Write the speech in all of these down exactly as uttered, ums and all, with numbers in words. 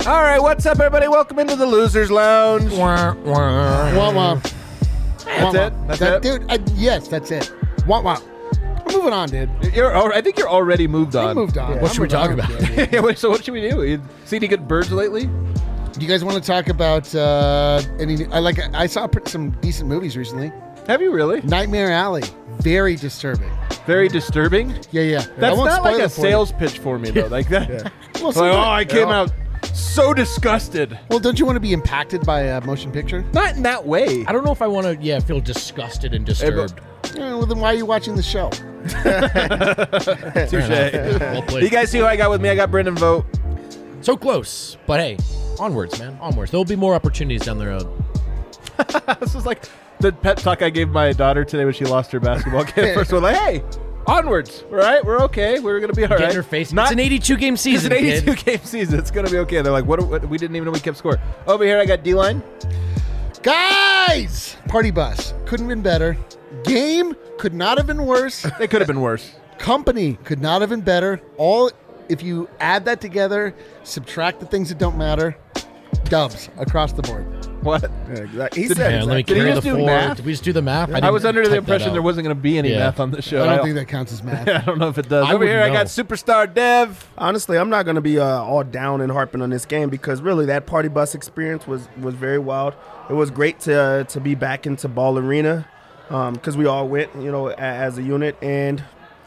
All right, what's up, everybody? Welcome into the Losers Lounge. Wah, wah. Wah, wah. That's Wah, it? wah. That's that, it? Dude, uh, yes, that's it. Wah, wah. We're moving on, dude. You're, al- I think you're already moved We on. moved on. What I'm should we moving talk on, about? dude. Yeah, wait, so what should we do? You see any good birds lately? Do you guys want to talk about uh, any? I like. I saw pr- some decent movies recently. Have you really? Nightmare Alley, very disturbing. Very disturbing. Yeah, yeah. I That's won't not like spoil a it for you. sales pitch for me, though. Like that. Well, Like, sometimes- oh, I came out so disgusted. well, don't you want to be impacted by a motion picture? Not in that way. I don't know if I want to, yeah, feel disgusted and disturbed. Yeah, well, then why are you watching the show? Touche. Well played. You guys see who I got with me? I got Brendan Vogt. So close, but hey, onwards, man, onwards. There'll be more opportunities down the road. This is like the pep talk I gave my daughter today when she lost her basketball game. First one, like, hey, onwards. All right, we're okay. We're gonna be all Get right. in her face. Not it's an eighty-two game It's season, an eighty-two kid. game season. It's gonna be okay. They're like, what, what? We didn't even know we kept score. Over here, I got D-line. Guys, Party Bus couldn't have been better. Game could not have been worse. They could have been worse. Company could not have been better. All if you add that together, subtract the things that don't matter, dubs across the board. What? Yeah, exactly. He Did- said Man, let me Did he carry the just do four. math? Did we just do the math? I, didn't was under the type that impression out. there wasn't going to be any Yeah. math on the show. I don't I think that counts as math. I don't know if it does. I Over here, I wouldn't got know. Superstar Dev. honestly, I'm not going to be uh, all down and harping on this game because really that party bus experience was, was very wild. It was great to uh, to be back into Ball Arena because we all went, you know, a, as a unit, and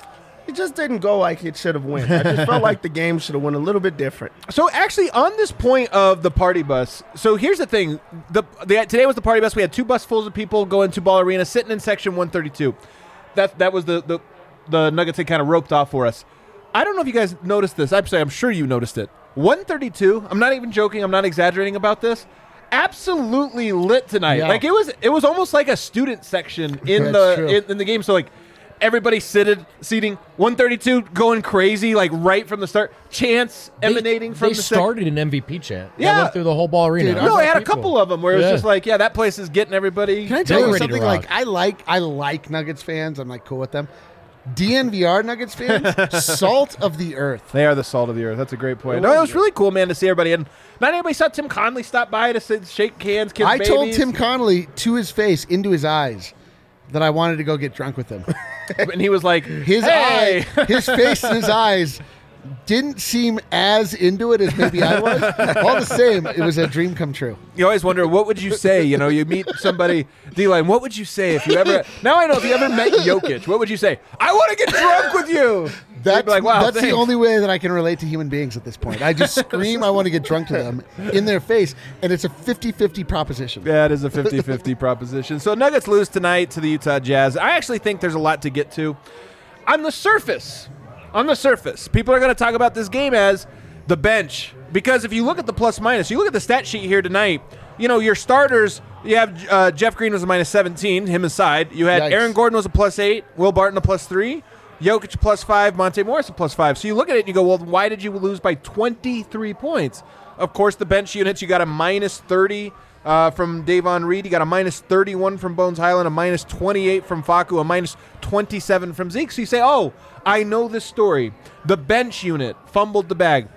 it just didn't go like it should have went. I just felt like the game should have went a little bit different. So actually, on this point of the party bus, so here's the thing: the, the today was the party bus. We had two busfuls of people going to Ball Arena, sitting in section one thirty-two. That that was the the, the Nuggets had kind of roped off for us. I don't know if you guys noticed this. I'm sorry, I'm sure you noticed it. one thirty-two. I'm not even joking. I'm not exaggerating about this. Absolutely lit tonight. Yeah. Like it was. It was almost like a student section in That's the true. in, in the game. So like. Everybody seated, seating one thirty-two, going crazy, like right from the start. Chants They- emanating from They the sec- started an M V P chant. That Yeah. went through the whole ball arena. Dude, It was No, I like had a people. couple of them where it was Yeah. just like, yeah, that place is getting everybody. Can I They tell were you ready to something? rock. Like I like I like Nuggets fans. I'm like cool with them. D N V R Nuggets fans, salt of the earth. They are the salt of the earth. That's a great point. No, it was really cool, man, to see everybody. And not anybody saw Tim Conley stop by to sit, shake hands, kiss I babies. told Tim Connolly to his face, into his eyes, that I wanted to go get drunk with him. and he was like, His hey. eye, his face and his eyes didn't seem as into it as maybe I was. All the same, it was a dream come true. You always wonder, what would you say? You know, you meet somebody, D-line, what would you say if you ever, now I know if you ever met Jokic, what would you say? I want to get drunk with you. That's, You'd be like, wow, that's the thanks. only way that I can relate to human beings at this point. I just scream I want to get drunk to them in their face, and it's a fifty-fifty proposition. Yeah, it is a fifty-fifty proposition. So Nuggets lose tonight to the Utah Jazz. I actually think there's a lot to get to. On the surface, on the surface, people are going to talk about this game as the bench. Because if you look at the plus minus, you look at the stat sheet here tonight, you know, your starters, you have uh, Jeff Green was a minus seventeen, him aside. You had Yikes. Aaron Gordon was a plus eight, Will Barton a plus three, Jokic a plus five, Monte Morris a plus five. So you look at it and you go, well, why did you lose by twenty-three points? Of course, the bench units, you got a minus thirty uh, from Davon Reed. You got a minus thirty-one from Bones Highland, a minus twenty-eight from Facu, a minus twenty-seven from Zeke. So you say, oh, I know this story. The bench unit fumbled the bag.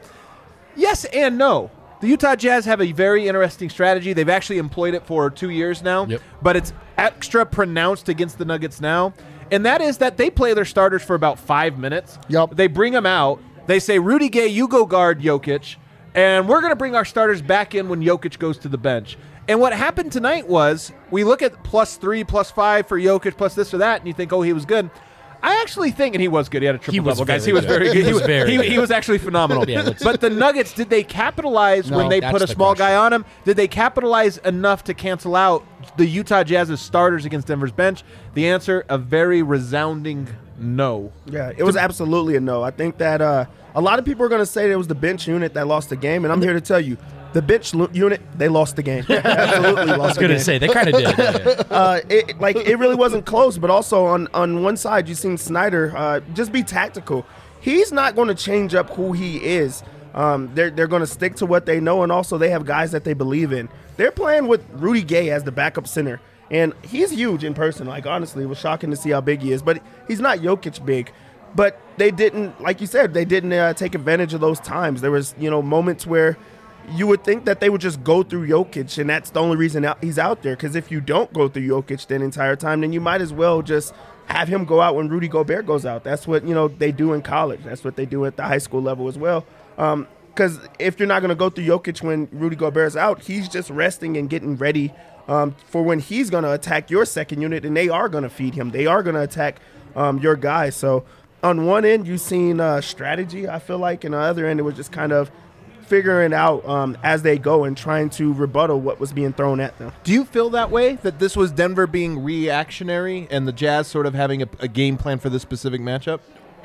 Yes and no. The Utah Jazz have a very interesting strategy. They've actually employed it for two years now, Yep. but it's extra pronounced against the Nuggets now. And that is that they play their starters for about five minutes. Yep. They bring them out. They say, Rudy Gay, you go guard Jokic. And we're going to bring our starters back in when Jokic goes to the bench. And what happened tonight was we look at plus three, plus five for Jokic, plus this or that, and you think, oh, he was good. I actually think, and he was good. He had a triple He was double, guys. very He was good. very good. He He was was, very he, good. he was actually phenomenal. Yeah, let's- But the Nuggets, did they capitalize No, when they that's put a the small question. guy on him? Did they capitalize enough to cancel out the Utah Jazz's starters against Denver's bench? The answer, a very resounding no. Yeah, it was absolutely a no. I think that uh, a lot of people are going to say it was the bench unit that lost the game, and I'm here to tell you, the bench lu- unit, they lost the game. Absolutely lost I was the going game. to say, they kind of did. Yeah. uh, it, like it really wasn't close. But also on on one side, you seen Snyder uh, just be tactical. He's not going to change up who he is. Um, they're they're going to stick to what they know, and also they have guys that they believe in. They're playing with Rudy Gay as the backup center, and he's huge in person. Like honestly, it was shocking to see how big he is, but he's not Jokic big. But they didn't, like you said, they didn't uh, take advantage of those times. There was you know moments where you would think that they would just go through Jokic, and that's the only reason out, he's out there. Because if you don't go through Jokic the entire time, then you might as well just have him go out when Rudy Gobert goes out. That's what, you know, they do in college. That's what they do at the high school level as well. Because um, if you're not going to go through Jokic when Rudy Gobert's out, he's just resting and getting ready um, for when he's going to attack your second unit, and they are going to feed him. They are going to attack um, your guys. So on one end, you've seen uh, strategy, I feel like, and on the other end, it was just kind of figuring out um, as they go and trying to rebuttal what was being thrown at them. Do you feel that way, that this was Denver being reactionary and the Jazz sort of having a, a game plan for this specific matchup?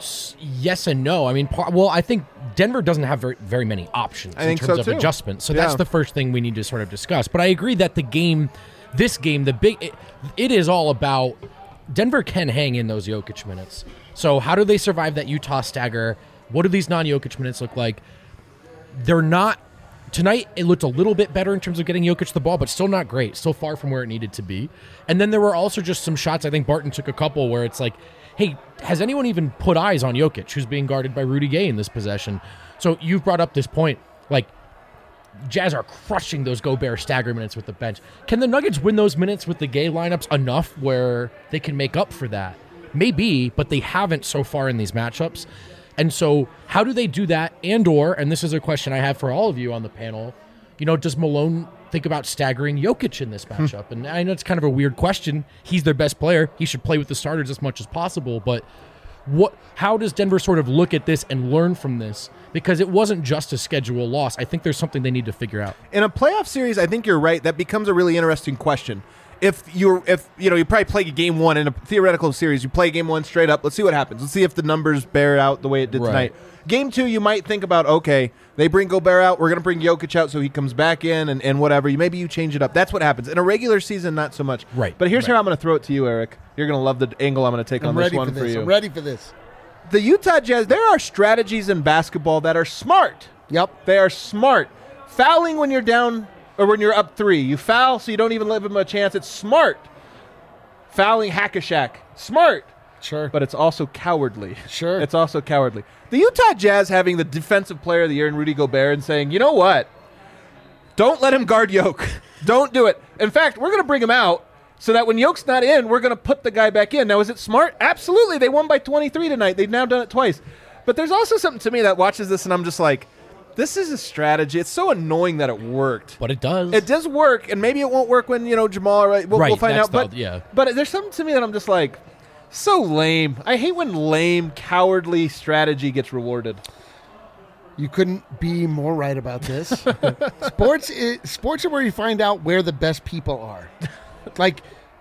Yes and no. I mean, par- well, I think Denver doesn't have very, very many options I in think terms so of too. adjustment. So Yeah. that's the first thing we need to sort of discuss. But I agree that the game, this game, the big, it, it is all about Denver can hang in those Jokic minutes. So how do they survive that Utah stagger? What do these non-Jokic minutes look like? They're not tonight. It looked a little bit better in terms of getting Jokic the ball, but still not great. Still far from where it needed to be. And then there were also just some shots. I think Barton took a couple where it's like, hey, has anyone even put eyes on Jokic, who's being guarded by Rudy Gay in this possession? So you've brought up this point, like Jazz are crushing those Gobert stagger minutes with the bench. Can the Nuggets win those minutes with the Gay lineups enough where they can make up for that? Maybe, but they haven't so far in these matchups. And so how do they do that? And or, and this is a question I have for all of you on the panel, you know, does Malone think about staggering Jokic in this matchup? And I know it's kind of a weird question. He's their best player. He should play with the starters as much as possible. But what? How does Denver sort of look at this and learn from this? Because it wasn't just a schedule loss. I think there's something they need to figure out. In a playoff series, I think you're right. That becomes a really interesting question. If you're, if you know, you probably play game one in a theoretical series, you play game one straight up. Let's see what happens. Let's see if the numbers bear out the way it did Right. tonight. Game two, you might think about, okay, they bring Gobert out. We're going to bring Jokic out so he comes back in and, and whatever. You maybe you change it up. That's what happens. In a regular season, not so much. Right. But here's Right. how I'm going to throw it to you, Eric. You're going to love the angle I'm going to take I'm on this ready one for this. you. I'm ready for this. The Utah Jazz, there are strategies in basketball that are smart. Yep. They are smart. Fouling when you're down or when you're up three. You foul so you don't even give them a chance. It's smart. Fouling hack-a-shack. Smart. Sure. But it's also cowardly. Sure. It's also cowardly. The Utah Jazz having the defensive player of the year in Rudy Gobert and saying, you know what? Don't let him guard Yoke. Don't do it. In fact, we're going to bring him out so that when Yoke's not in, we're going to put the guy back in. Now, is it smart? Absolutely. They won by twenty-three tonight. They've now done it twice. But there's also something to me that watches this and I'm just like, this is a strategy. It's so annoying that it worked. But it does. It does work, and maybe it won't work when, you know, Jamal, right? We'll, Right, we'll find that's out. But, the- yeah. but there's something to me that I'm just like, so lame. I hate when lame, cowardly strategy gets rewarded. You couldn't be more right about this. sports, is, sports are where you find out where the best people are. Like,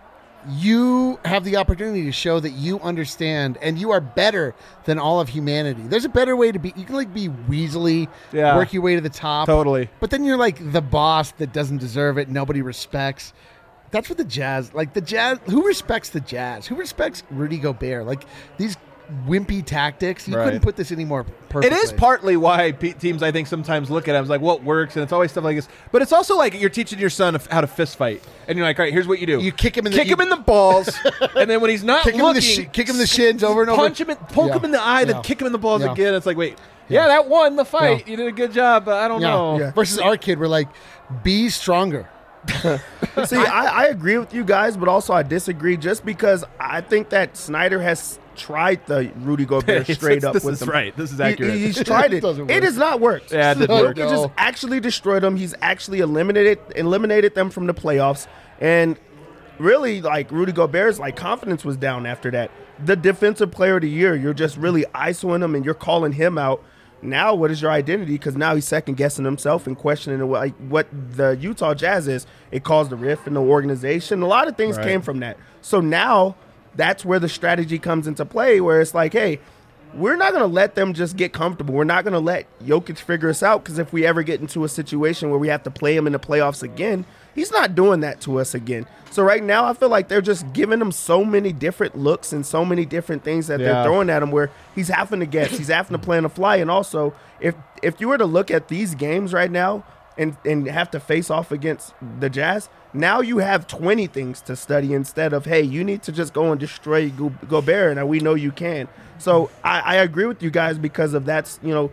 you have the opportunity to show that you understand and you are better than all of humanity. There's a better way to be. You can like be weaselly, Yeah. work your way to the top. Totally. But then you're like the boss that doesn't deserve it. Nobody respects. That's what the Jazz, like the Jazz, who respects the Jazz? Who respects Rudy Gobert? Like these wimpy tactics. You Right. couldn't put this any more It perfectly. is partly why pe- teams, I think, sometimes look at it. I was like, what works? And it's always stuff like this. But it's also like you're teaching your son how to fist fight. And you're like, all right, here's what you do. You kick him in the- kick you- him in the balls. And then when he's not Kick him, in looking, the shi- kick him in the shins over and over. punch him, in, poke Yeah. him in the eye, then Yeah. kick him in the balls Yeah. again. It's like, wait, yeah, that won the fight. Yeah. You did a good job, but I don't Yeah. know. Yeah. Versus our kid, we're like, be stronger. See, I, I agree with you guys, but also I disagree just because I think that Snyder has tried the Rudy Gobert It's- straight it's- up this with is him. right. This is He- accurate. he's tried It it. doesn't It work. has not worked. Yeah, it didn't No, work. Jokic has no. actually destroyed them. He's actually eliminated eliminated them from the playoffs. And really, like, Rudy Gobert's like confidence was down after that. The defensive player of the year, you're just really ISOing him and you're calling him out. Now, what is your identity? Because now he's second guessing himself and questioning what, like, what the Utah Jazz is. It caused a rift in the organization. A lot of things Right. came from that. So now that's where the strategy comes into play, where it's like, hey, we're not going to let them just get comfortable. We're not going to let Jokic figure us out, because if we ever get into a situation where we have to play him in the playoffs again, he's not doing that to us again. So right now, I feel like they're just giving him so many different looks and so many different things that Yeah. they're throwing at him where he's having to guess. He's having to play on the fly. And also, if if you were to look at these games right now and, and have to face off against the Jazz, now you have twenty things to study instead of, hey, you need to just go and destroy Go- Gobert, and we know you can. So I, I agree with you guys because of that's, you know,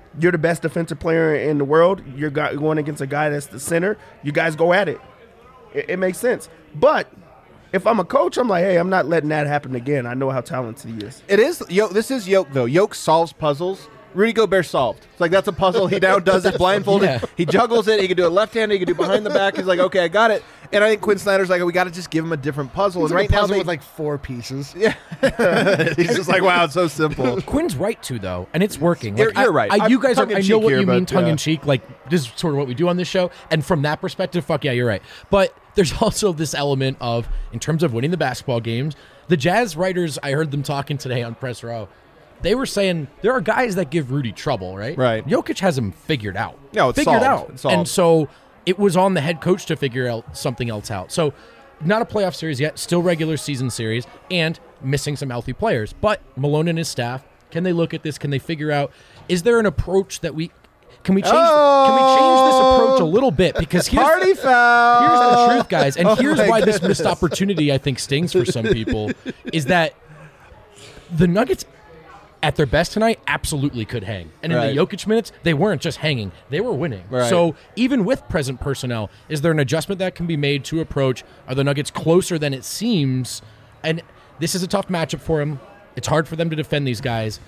You're the best defensive player in the world. You're going against a guy that's the center. You guys go at it. It, it makes sense. But if I'm a coach, I'm like, hey, I'm not letting that happen again. I know how talented he is. It is. Yo, this is Yoke, though. Yoke solves puzzles. Rudy Gobert solved. It's like, that's a puzzle. He now does it blindfolded. Yeah. He juggles it. He can do it left-handed. He can do it behind the back. He's like, okay, I got it. And I think Quinn Snyder's like, we got to just give him a different puzzle. It's and like right a puzzle now, they, with like four pieces. yeah. He's just like, wow, it's so simple. Quinn's right too, though, and it's working. You're- Like, I- you're right. I, I'm you guys, are, I tongue-in-cheek know what here, you mean, but, tongue yeah. in cheek. Like this is sort of what we do on this show, and from that perspective, fuck yeah, you're right. But there's also this element of, in terms of winning the basketball games, the Jazz writers. I heard them talking today on Press Row. They were saying there are guys that give Rudy trouble, right? Right. Jokic has him figured out. No, it's figured solved. out. It's solved. And so it was on the head coach to figure out something else out. So not a playoff series yet, still regular season series, and missing some healthy players. But Malone and his staff, can they look at this? Can they figure out, is there an approach that we can we change? Oh! Can we change this approach a little bit? Because here's Party foul. Here's the truth, guys, and Oh here's my why this goodness. missed opportunity I think stings for some people is that the Nuggets at their best tonight absolutely could hang. And in Right. the Jokic minutes, they weren't just hanging, they were winning. Right. So even with present personnel, is there an adjustment that can be made to approach? Are the Nuggets closer than it seems? And this is a tough matchup for them. It's hard for them to defend these guys.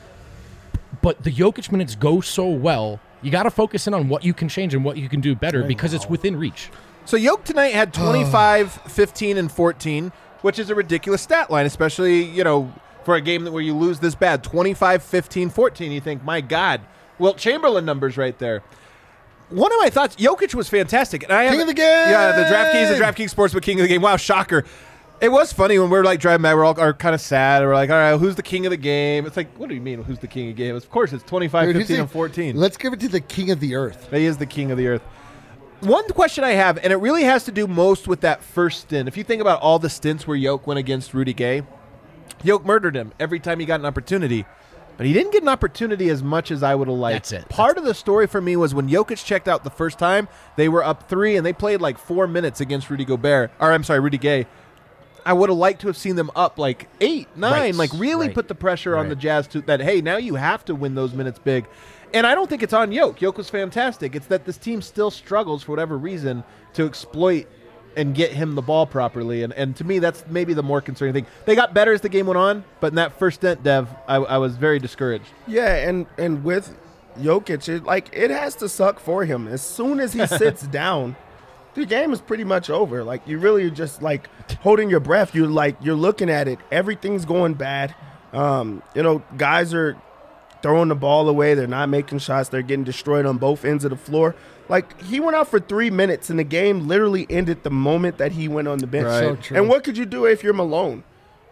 But the Jokic minutes go so well, you got to focus in on what you can change and what you can do better because it's within reach. So Yoke tonight had twenty-five, fifteen, and fourteen, which is a ridiculous stat line, especially, you know, for a game that where you lose this bad. twenty-five, fifteen, fourteen, you think, my God. Wilt Chamberlain numbers right there. One of my thoughts, Jokic was fantastic. And I King have, of the game! Yeah, the DraftKings, the DraftKings Sportsbook King of the game. Wow, shocker. It was funny when we were like driving by, we're all are kind of sad. We're like, all right, who's the king of the game? It's like, what do you mean, who's the king of the game? Of course, it's twenty-five, Dude, who's fifteen, the- and fourteen. Let's give it to the king of the earth. He is the king of the earth. One question I have, and it really has to do most with that first stint. If you think about all the stints where Yoke went against Rudy Gay, Yoke murdered him every time he got an opportunity. But he didn't get an opportunity as much as I would have liked. That's it. Part of the story for me was when Jokic checked out the first time, they were up three, and they played like four minutes against Rudy Gobert. Or, I'm sorry, Rudy Gay. I would have liked to have seen them up like eight, nine, Right. like really Right. put the pressure on Right. the Jazz to that, hey, now you have to win those minutes big. And I don't think it's on Yoke. Yoke was fantastic. It's that this team still struggles for whatever reason to exploit and get him the ball properly. And and to me, that's maybe the more concerning thing. They got better as the game went on, but in that first stint, Dev, I, I was very discouraged. Yeah, and and with Jokic, it, like it has to suck for him. As soon as he sits down, the game is pretty much over. Like you really are just like holding your breath. You're like you're looking at it. Everything's going bad. Um, you know, guys are throwing the ball away. They're not making shots. They're getting destroyed on both ends of the floor. Like he went out for three minutes, and the game literally ended the moment that he went on the bench. Right. So true. And what could you do if you're Malone?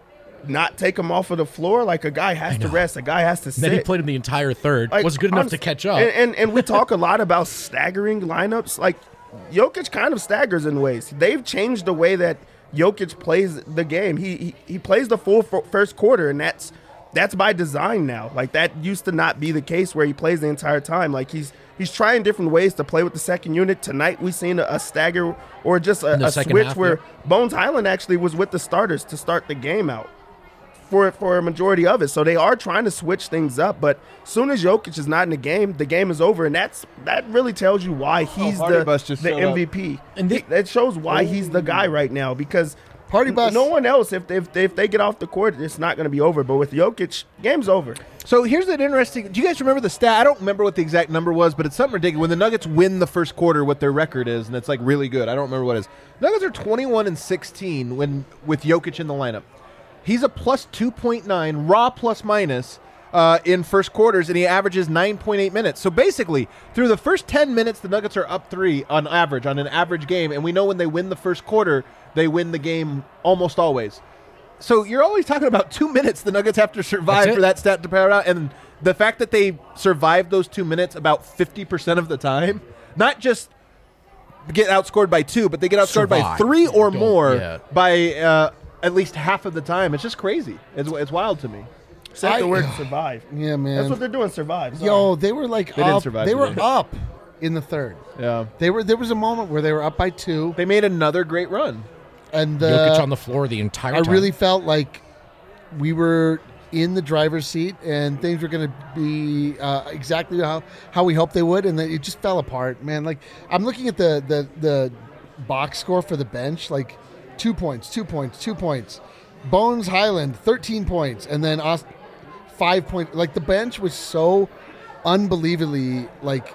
Not take him off of the floor? Like a guy has to know. rest. A guy has to sit. Then he played him the entire third. Like, was good enough I'm- to catch up. And, and and we talk a lot about staggering lineups. Like Jokic kind of staggers in ways. They've changed the way that Jokic plays the game. He he, he plays the full f- first quarter, and that's that's by design now. Like that used to not be the case where he plays the entire time. Like he's he's trying different ways to play with the second unit. Tonight we seen a, a stagger or just a, In the a second switch half, where yeah. Bones Highland actually was with the starters to start the game out. For, for a majority of it. So they are trying to switch things up, but as soon as Jokic is not in the game, the game is over, and that's that really tells you why he's Party the, Bus just the showed up. M V P. And thi- that shows why he's the guy right now, because Party Bus. no one else, if they, if they, if they get off the court, it's not going to be over. But with Jokic, game's over. So here's an interesting. Do you guys remember the stat? I don't remember what the exact number was, but it's something ridiculous. When the Nuggets win the first quarter, what their record is, and it's like really good. I don't remember what it is. Nuggets are twenty-one and sixteen when with Jokic in the lineup. He's a plus two point nine raw plus minus uh, in first quarters, and he averages nine point eight minutes. So basically, through the first ten minutes, the Nuggets are up three on average, on an average game. And we know when they win the first quarter, they win the game almost always. So you're always talking about two minutes the Nuggets have to survive That's it. for that stat to power out. And the fact that they survived those two minutes about fifty percent of the time, not just get outscored by two, but they get outscored by Survive. three or Don't- more yeah. by uh, at least half of the time. It's just crazy. It's, it's wild to me. Say I- the word survive. Yeah, man. That's what they're doing, survive. Sorry. Yo, they were like They didn't up. survive They were today. up in the third. Yeah. They were. There was a moment where they were up by two, They made another great run. and Jokic the, on the floor the entire I time. really felt like we were in the driver's seat, and things were going to be uh, exactly how, how we hoped they would, and then it just fell apart, man. Like, I'm looking at the, the, the box score for the bench, like two points, two points, two points. Bones Highland, thirteen points, and then Aust- five points. Like, the bench was so unbelievably, like,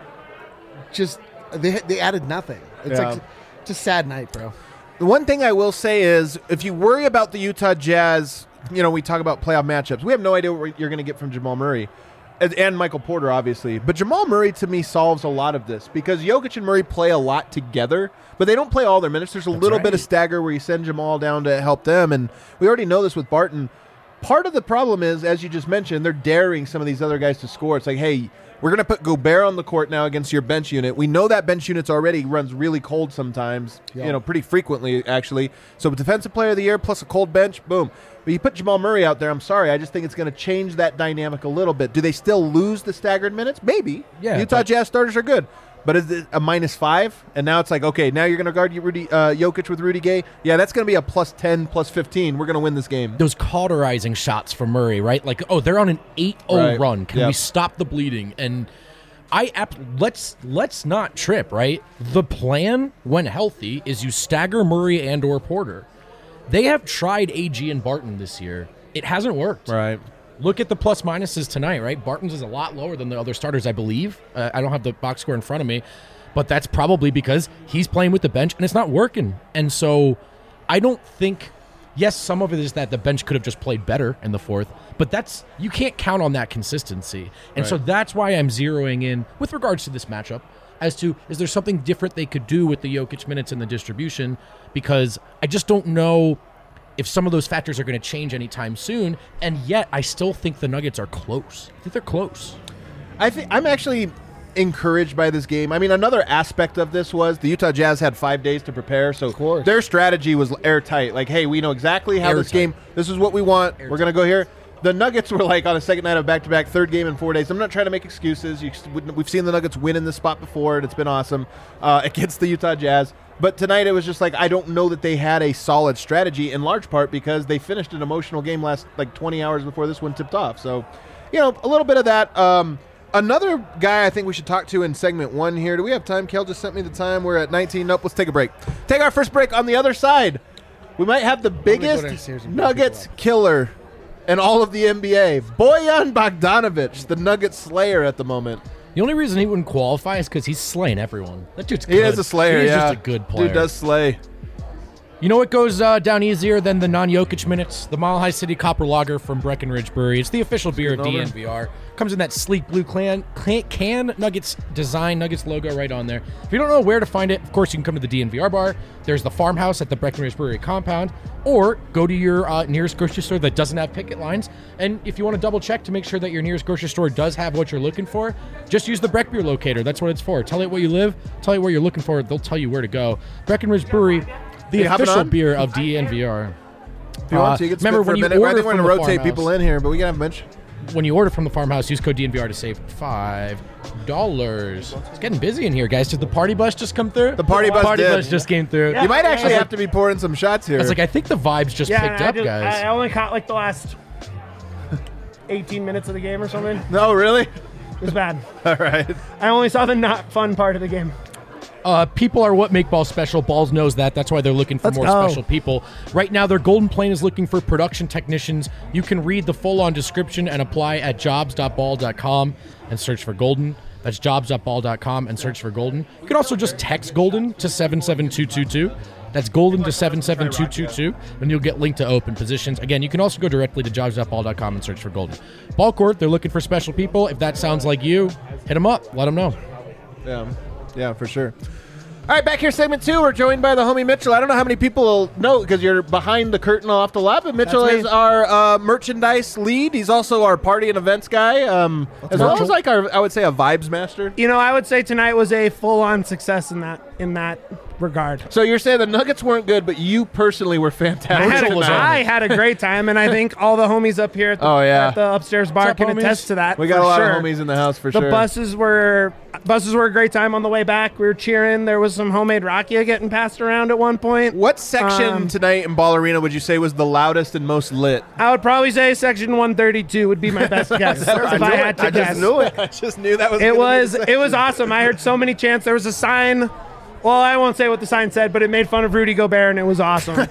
just they they added nothing. It's Yeah. like it's a sad night, bro. The one thing I will say is, if you worry about the Utah Jazz, you know, we talk about playoff matchups. We have no idea what you're going to get from Jamal Murray and, and Michael Porter, obviously. But Jamal Murray, to me, solves a lot of this because Jokic and Murray play a lot together, but they don't play all their minutes. There's a That's little right. bit of stagger where you send Jamal down to help them, and we already know this with Barton. Part of the problem is, as you just mentioned, they're daring some of these other guys to score. It's like, hey, we're going to put Gobert on the court now against your bench unit. We know that bench unit's already runs really cold sometimes, Yeah. you know, pretty frequently, actually. So defensive player of the year plus a cold bench, boom. But you put Jamal Murray out there, I'm sorry, I just think it's going to change that dynamic a little bit. Do they still lose the staggered minutes? Maybe. Yeah, Utah but- Jazz starters are good. But is it a minus five? And now it's like, okay, now you're going to guard you Rudy, uh, Jokic with Rudy Gay? Yeah, that's going to be a plus ten, plus fifteen. We're going to win this game. Those cauterizing shots from Murray, right? Like, oh, they're on an eight oh Right. run. Can Yep. we stop the bleeding? And I ap- let's let's not trip, right? The plan, when healthy, is you stagger Murray and or Porter. They have tried A G and Barton this year. It hasn't worked. Right. Look at the plus minuses tonight, right? Barton's is a lot lower than the other starters, I believe. Uh, I don't have the box score in front of me, but that's probably because he's playing with the bench and it's not working. And so I don't think, yes, some of it is that the bench could have just played better in the fourth, but that's, you can't count on that consistency. And so Right. that's why I'm zeroing in with regards to this matchup as to, is there something different they could do with the Jokic minutes and the distribution? Because I just don't know if some of those factors are going to change anytime soon, and yet I still think the Nuggets are close. I think they're close. I think I'm actually encouraged by this game. I mean, another aspect of this was the Utah Jazz had five days to prepare, so course. their strategy was airtight. Like, hey, we know exactly how this Airtight. game. This is what we want. We're gonna go here. The Nuggets were like on a second night of back-to-back, third game in four days. I'm not trying to make excuses. You, we've seen the Nuggets win in this spot before, and it's been awesome uh, against the Utah Jazz. But tonight it was just like, I don't know that they had a solid strategy, in large part because they finished an emotional game last like twenty hours before this one tipped off. So, you know, a little bit of that. Um, another guy I think we should talk to in segment one here. Do we have time? Kel just sent me the time. We're at nineteen. Nope, let's take a break. Take our first break. On the other side, we might have the go biggest downstairs and pick Nuggets people up. killer in all of the N B A. Bojan Bogdanovic, the Nuggets slayer at the moment. The only reason he wouldn't qualify is because he's slaying everyone. That dude's He good. is a slayer, He's yeah. just a good player. Dude does slay. You know what goes uh, down easier than the non-Jokic minutes? The Mile High City Copper Lager from Breckenridge Brewery. It's the official beer of over. D N V R. Comes in that sleek blue can, can, can Nuggets design, Nuggets logo right on there. If you don't know where to find it, of course you can come to the D N V R bar. There's the farmhouse at the Breckenridge Brewery compound, or go to your uh, nearest grocery store that doesn't have picket lines. And if you want to double check to make sure that your nearest grocery store does have what you're looking for, just use the Breck Beer locator. That's what it's for. Tell it where you live, tell it where you're looking for. They'll tell you where to go. Breckenridge Brewery, the You hopping official on? beer of D N V R. If you want to, you Uh, can remember spit for when a you minute. I order think we're from going to the rotate farmhouse- people in here, but we can have a bunch. When you order from the farmhouse, use code D N V R to save five dollars. It's getting busy in here, guys. Did the party bus just come through? The party bus party did. bus just came through. You might actually I was have to be pouring some shots here. I was like, I think the vibes just Yeah, picked I, up, did- guys. I only caught like the last eighteen minutes of the game or something. no, really? It was bad. All right. I only saw the not fun part of the game. Uh, people are what make ball special. Balls knows that. That's why they're looking for Let's more go. special people. Right now, their Golden Plane is looking for production technicians. You can read the full-on description and apply at jobs dot ball dot com and search for Golden. That's jobs dot ball dot com and search for Golden. You can also just text Golden to seven seven two two two. That's Golden to seven seven two two two, and you'll get linked to open positions. Again, you can also go directly to jobs dot ball dot com and search for Golden. Ball court, they're looking for special people. If that sounds like you, hit them up. Let them know. Yeah, yeah, for sure. All right, back here, segment two. We're joined by the homie Mitchell. I don't know how many people will know because you're behind the curtain off the lot, but Mitchell That's me. is our uh, merchandise lead. He's also our party and events guy, um, as well Mitchell. as like our, I would say, a vibes master. You know, I would say tonight was a full-on success in that in that regard. So you're saying the Nuggets weren't good, but you personally were I fantastic. had, a, was tonight. on I had a great time, and I think all the homies up here at the, Oh, yeah. at the upstairs bar up, can homies? attest to that. We got for a lot sure. of homies in the house for The sure. buses were buses were a great time on the way back. We were cheering. There was some homemade rakia getting passed around at one point. What section Um, tonight in Ball Arena would you say was the loudest and most lit? I would probably say section one thirty-two would be my best guess I if knew I it. had to I guess. just knew it. I just knew that was. It gonna be was the it was awesome. I heard so many chants. There was a sign. Well, I won't say what the sign said, but it made fun of Rudy Gobert, and it was awesome.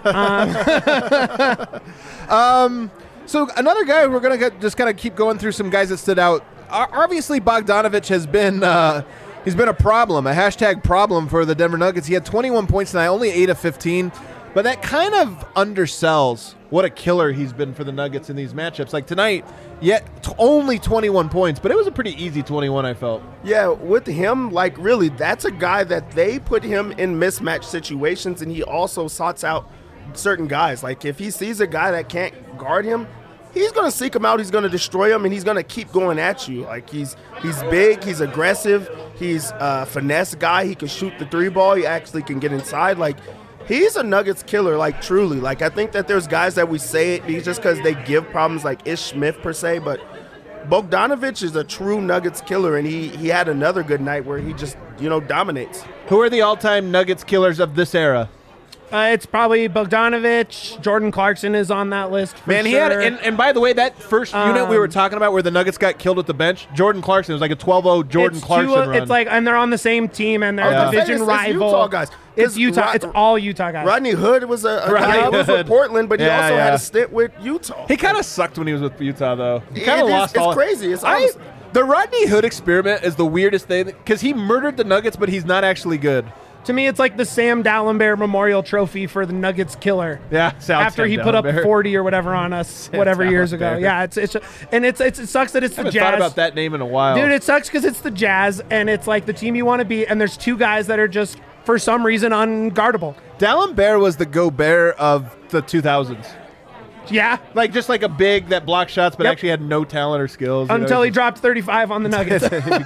So another guy, we're gonna get, just kind of keep going through some guys that stood out. O- Obviously, Bogdanovich has been uh, he's been a problem, a hashtag problem for the Denver Nuggets. He had twenty-one points tonight, only eight of fifteen, but that kind of undersells what a killer he's been for the Nuggets in these matchups. Like tonight, yet t- only twenty-one points, but it was a pretty easy twenty-one. I felt. Yeah, with him, like really, that's a guy that they put him in mismatch situations, and he also sorts out certain guys. Like if he sees a guy that can't guard him, he's gonna seek him out. He's gonna destroy him, and he's gonna keep going at you. Like he's he's big, he's aggressive, he's a finesse guy. He can shoot the three ball. He actually can get inside. Like he's a Nuggets killer. Like truly. Like I think that there's guys that we say it just because they give problems, like Ish Smith per se, but Bogdanovich is a true Nuggets killer, and he he had another good night where he just you know dominates. Who are the all-time Nuggets killers of this era? Uh, it's probably Bogdanovich. Jordan Clarkson is on that list. For Man, he sure. had, and, and by the way, that first unit we were Um, talking about where the Nuggets got killed at the bench, Jordan Clarkson, it was like a twelve oh Jordan it's Clarkson two, run. It's like, and they're on the same team, and they're Yeah. a division It's- it's rival. Utah guys. It's 'Cause Utah. Rod- it's all Utah guys. Rodney Hood was a, a Rodney guy that was Hood. with Portland, but he Yeah, also yeah. had a stint with Utah. He kind of sucked when he was with Utah, though. He It kind of is- lost it's all. crazy. It's I, honest- the Rodney Hood experiment is the weirdest thing because he murdered the Nuggets, but he's not actually good. To me, it's like the Sam Dallenberg Memorial Trophy for the Nuggets killer. Yeah, South After Sam he put up Dallenberg. forty or whatever on us, whatever years ago. Dallenberg. Yeah, it's it's and it's, it's it sucks that it's I the haven't Jazz. thought about that name in a while. Dude, it sucks because it's the Jazz, and it's like the team you want to beat, and there's two guys that are just for some reason unguardable. Dallenberg was the Gobert of the two thousands. Yeah, Like just like a big that blocked shots, but Yep. actually had no talent or skills. you know, until he just- dropped thirty-five on the Nuggets.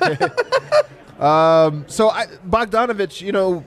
So I, Bogdanovich, you know,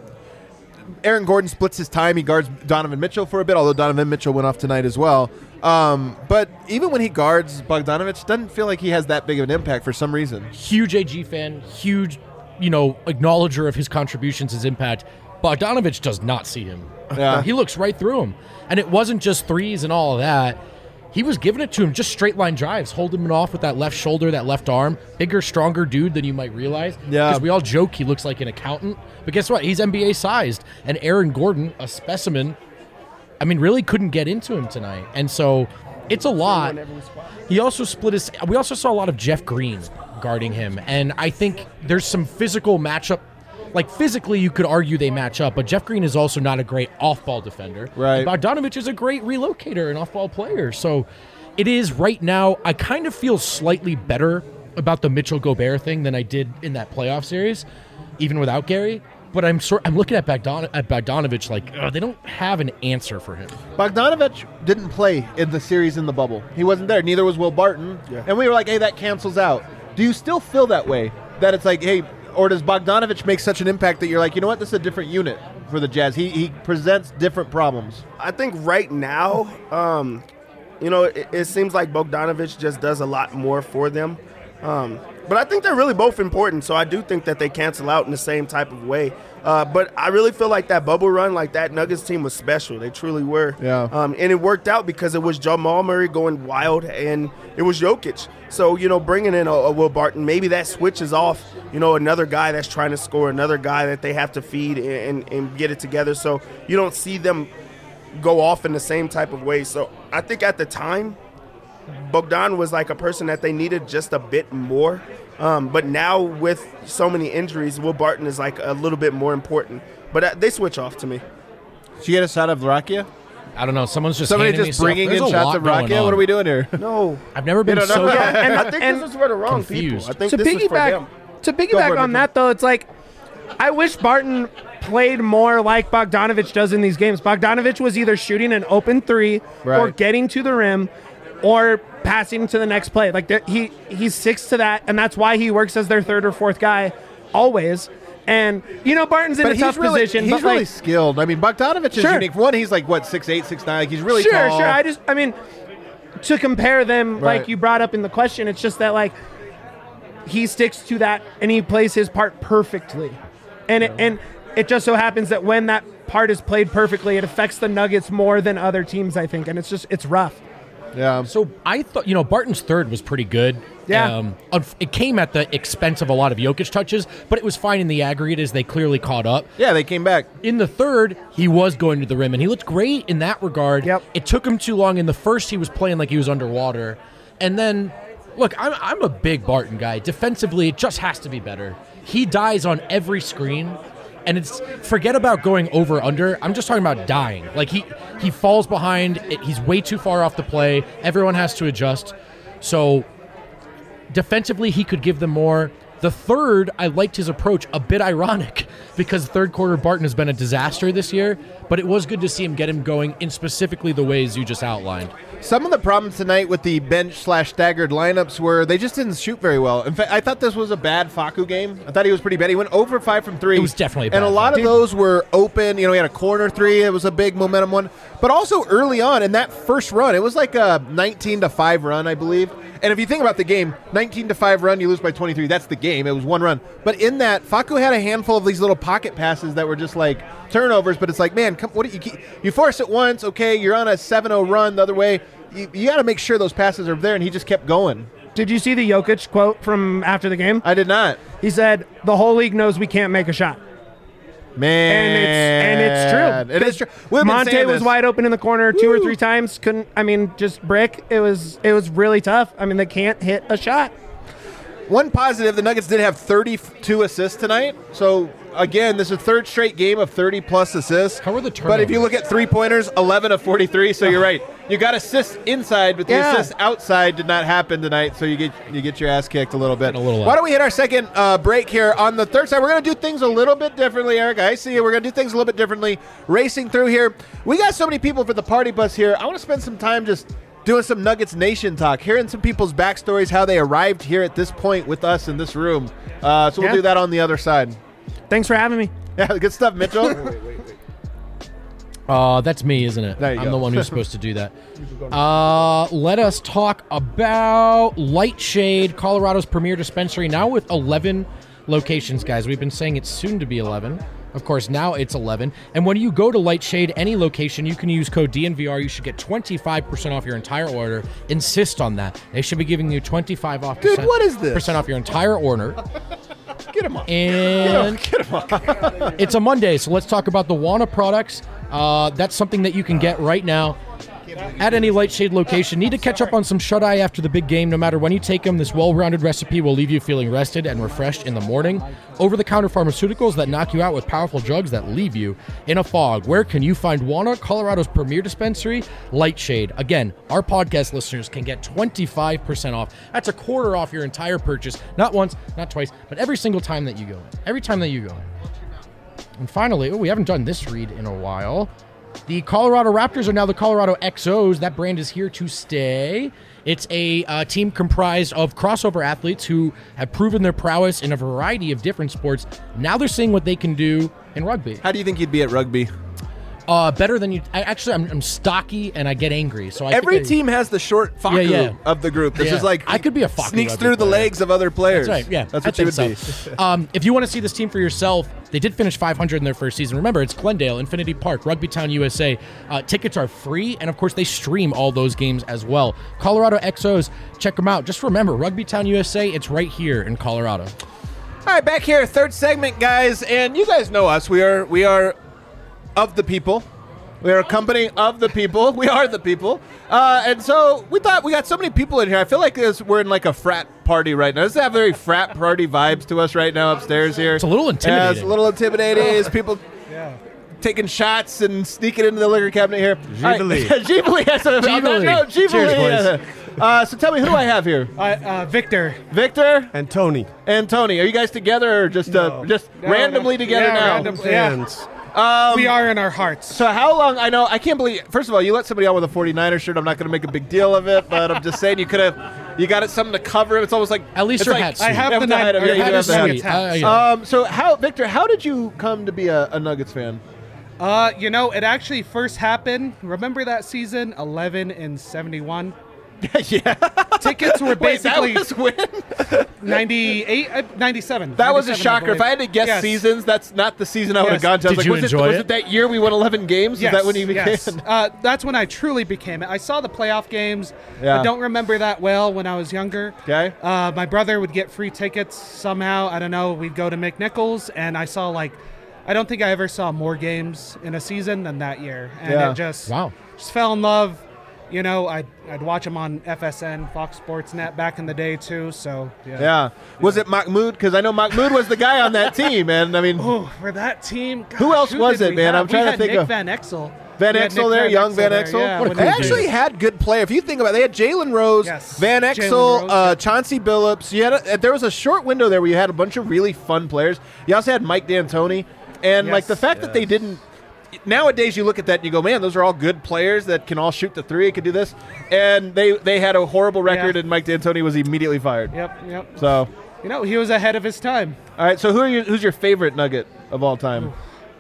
Aaron Gordon splits his time. He guards Donovan Mitchell for a bit, although Donovan Mitchell went off tonight as well. Um, but even when he guards Bogdanovich, doesn't feel like he has that big of an impact for some reason. Huge A G fan, huge, you know, acknowledger of his contributions, his impact. Bogdanovich does not see him. Yeah. He looks right through him. And it wasn't just threes and all of that. He was giving it to him, just straight line drives, holding him off with that left shoulder, that left arm. Bigger, stronger dude than you might realize. Yeah. Because we all joke he looks like an accountant. But guess what? He's N B A sized. And Aaron Gordon, a specimen, I mean, really couldn't get into him tonight. And so it's a lot. He also split his. We also saw a lot of Jeff Green guarding him. And I think there's some physical matchup. Like physically, you could argue they match up, but Jeff Green is also not a great off-ball defender. Right. And Bogdanovich is a great relocator and off-ball player. So it is right now. I kind of feel slightly better about the Mitchell Gobert thing than I did in that playoff series, even without Gary. But I'm sort. I'm looking at Bogdan, at Bogdanovich like ugh, they don't have an answer for him. Bogdanovich didn't play in the series in the bubble. He wasn't there. Neither was Will Barton. Yeah. And we were like, hey, that cancels out. Do you still feel that way? That it's like, hey, or does Bogdanovich make such an impact that you're like, you know what, this is a different unit for the Jazz. He he presents different problems. I think right now, um, you know, it, it seems like Bogdanovich just does a lot more for them. Um, but I think they're really both important, so I do think that they cancel out in the same type of way. Uh, but I really feel like that bubble run, like that Nuggets team was special. They truly were. Yeah. Um, and it worked out because it was Jamal Murray going wild, and it was Jokic. So, you know, bringing in a, a Will Barton, maybe that switches off, you know, another guy that's trying to score, another guy that they have to feed and, and, and get it together. So you don't see them go off in the same type of way. So I think at the time, Bogdan was like a person that they needed just a bit more. Um, but now with so many injuries, Will Barton is like a little bit more important. But uh, they switch off to me. Did you get a shot of Rakia? I don't know. Someone's just Somebody handing me just stuff. bringing There's in a shots lot of going Rakia? on. What are we doing here? No. I've never been You know, so. no, Yeah, and- I think and- this is for the wrong confused. people. I think to this is for piggyback them. to Go for piggyback it, on Mitchell. that though, it's like I wish Barton played more like Bogdanovich does in these games. Bogdanovich was either shooting an open three or Right. getting to the rim or passing to the next play. Like there- he he sticks to that, and that's why he works as their third or fourth guy always. And, you know, Barton's in But a he's tough really, position. He's but really like, skilled. I mean, Bogdanovich is Sure. unique. One, he's like, what, six eight, six nine? Like, he's really sure, tall. sure. I just, I mean, to compare them, Right. like you brought up in the question, it's just that, like, he sticks to that and he plays his part perfectly. And it, and it just so happens that when that part is played perfectly, it affects the Nuggets more than other teams, I think. And it's just, it's rough. Yeah. So I thought, you know, Barton's third was pretty good. Yeah. Um, unf- it came at the expense of a lot of Jokic touches, but it was fine in the aggregate as they clearly caught up. Yeah, they came back. In the third, he was going to the rim, and he looked great in that regard. Yep. It took him too long. In the first, he was playing like he was underwater. And then, look, I'm, I'm a big Barton guy. Defensively, it just has to be better. He dies on every screen. And it's forget about going over under. I'm just talking about dying. Like he he falls behind. It, he's way too far off the play. Everyone has to adjust. So defensively, he could give them more. The third, I liked his approach. A bit ironic because third quarter Barton has been a disaster this year. But it was good to see him get him going in specifically the ways you just outlined. Some of the problems tonight with the bench slash staggered lineups were they just didn't shoot very well. In fact, I thought this was a bad Facu game. I thought he was pretty bad. He went over five from three. It was definitely a and a bad lot one. of those were open. You know, he had a corner three. It was a big momentum one. But also early on in that first run, it was like a nineteen to five run, I believe. And if you think about the game, nineteen to five run, you lose by twenty-three. That's the game. It was one run. But in that, Facu had a handful of these little pocket passes that were just like turnovers. But it's like, man, come, what do you keep, you force it once, okay? You're on a seven oh run the other way. You, you got to make sure those passes are there. And he just kept going. Did you see the Jokic quote from after the game? I did not. He said, the whole league knows we can't make a shot. Man, And it's, and it's true. It is true. We've been Monte saying was this. wide open in the corner two Woo. or three times. Couldn't, I mean, just brick. It was, it was really tough. I mean, they can't hit a shot. One positive, the Nuggets did have thirty-two assists tonight. So, again, this is a third straight game of thirty-plus assists. How were the But if you turnovers? look at three-pointers, eleven of forty-three, so you're right. You got assists inside, but the Yeah. assists outside did not happen tonight, so you get you get your ass kicked a little bit. A little Why out. don't we hit our second uh, break here on the third side? We're going to do things a little bit differently, Eric. I see you. We're going to do things a little bit differently. Racing through here. We got so many people for the party bus here. I want to spend some time just doing some Nuggets Nation talk, hearing some people's backstories, how they arrived here at this point with us in this room. Uh, so we'll Yeah. do that on the other side. Thanks for having me. Yeah, good stuff, Mitchell. Uh, that's me, isn't it? There you I'm go. the one who's supposed to do that. Uh, let us talk about Lightshade, Colorado's premier dispensary, now with eleven locations, guys. We've been saying it's soon to be eleven. Of course, now it's eleven. And when you go to Lightshade, any location, you can use code D N V R. You should get twenty-five percent off your entire order. Insist on that. They should be giving you twenty-five off Dude, what is this? percent off your entire order. Get him off. And Get him off. it's a Monday, so let's talk about the Wana products. Uh, that's something that you can get right now at any Lightshade location. Need to catch up on some shut-eye after the big game. No matter when you take them, this well-rounded recipe will leave you feeling rested and refreshed in the morning. Over-the-counter pharmaceuticals that knock you out with powerful drugs that leave you in a fog. Where can you find Wana, Colorado's premier dispensary? Lightshade. Again, our podcast listeners can get twenty-five percent off. That's a quarter off your entire purchase. Not once, not twice, but every single time that you go in. Every time that you go in. And finally, oh, we haven't done this read in a while. The Colorado Raptors are now the Colorado X Os. That brand is here to stay. It's a uh, team comprised of crossover athletes who have proven their prowess in a variety of different sports. Now they're seeing what they can do in rugby. How do you think you'd be at rugby? Uh, better than you. I, actually, I'm, I'm stocky and I get angry. So I Every think I- team has the short Facu Yeah, yeah. of the group. This Yeah. is like I could be a Facu sneaks rugby through the player. legs of other players. That's right. Yeah, that's I what you would think be. so. um, if you want to see this team for yourself, they did finish five hundred in their first season. Remember, it's Glendale, Infinity Park, Rugby Town, U S A. Uh, tickets are free, and of course, they stream all those games as well. Colorado X Os, check them out. Just remember, Rugby Town, U S A. It's right here in Colorado. All right, back here, third segment, guys, and you guys know us. We are we are of the people. We are a company of the people. We are the people. Uh, and so we thought we got so many people in here. I feel like this, we're in like a frat party right now. Does it have very frat party vibes to us right now upstairs here? It's a little Yeah, it's intimidating. a little intimidating. It's people taking shots and sneaking into the liquor cabinet here. Jubilee. All right. Jubilee. Yes, on that Jubilee. note, Jubilee. Cheers, Uh, so tell me, who do I have here? Uh, uh, Victor. Victor And Tony. and Tony. Are you guys together or just uh, No. just No, randomly no. together Yeah, now? random- Yeah. Fans. we are in our hearts. So how long? I know I can't believe. First of all, you let somebody out with a forty-niners shirt. I'm not going to make a big deal of it, but I'm just saying you could have You got it something to cover. It's almost like At least it's your like, hat's I have Yeah, the with the nine. hat, I yeah, you have have the the hat. Nuggets hat. Uh, yeah. Um, so how, Victor? How did you come to be a, a Nuggets fan? Uh, you know, it actually first happened. Remember that season, eleven and seventy-one. yeah, Tickets were Wait, that basically was when? ninety-eight, uh, ninety-seven. That was a ninety-seven, I shocker. If believe. I had to guess Yes. seasons, that's not the season I would have Yes. gone to. I was Did like, you was enjoy it, was it? it that year we won eleven games? Yes, Is that when you became? yes. Uh, that's when I truly became it. I saw the playoff games. Yeah. I don't remember that well when I was younger. Okay. Uh, my brother would get free tickets somehow. I don't know. We'd go to McNichols, and I saw like, I don't think I ever saw more games in a season than that year. And Yeah. it just, Wow. just fell in love. You know, I'd, I'd watch them on F S N, Fox Sports Net back in the day too. So yeah. Yeah. Was it Mahmoud? Because I know Mahmoud was the guy on that team, and I mean, Oh, for that team. Who gosh, else was did it, we man? have? I'm trying we to had think Nick of- Van Exel. Van We had Exel Nick there, young Van there, Exel. yeah, What a when They cool he- dude. actually had good player. If you think about it, they had Jalen Rose, Yes. Van Jalen Exel, Rose, uh, yeah. Chauncey Billups. You had a, there was a short window there where you had a bunch of really fun players. You also had Mike D'Antoni, and like Yes. the fact that they didn't. Nowadays, you look at that and you go, "Man, those are all good players that can all shoot the three, could do this." And they they had a horrible record, Yeah. and Mike D'Antoni was immediately fired. Yep, yep. So, You know, he was ahead of his time. all right. So, who are you? Who's your favorite Nugget of all time?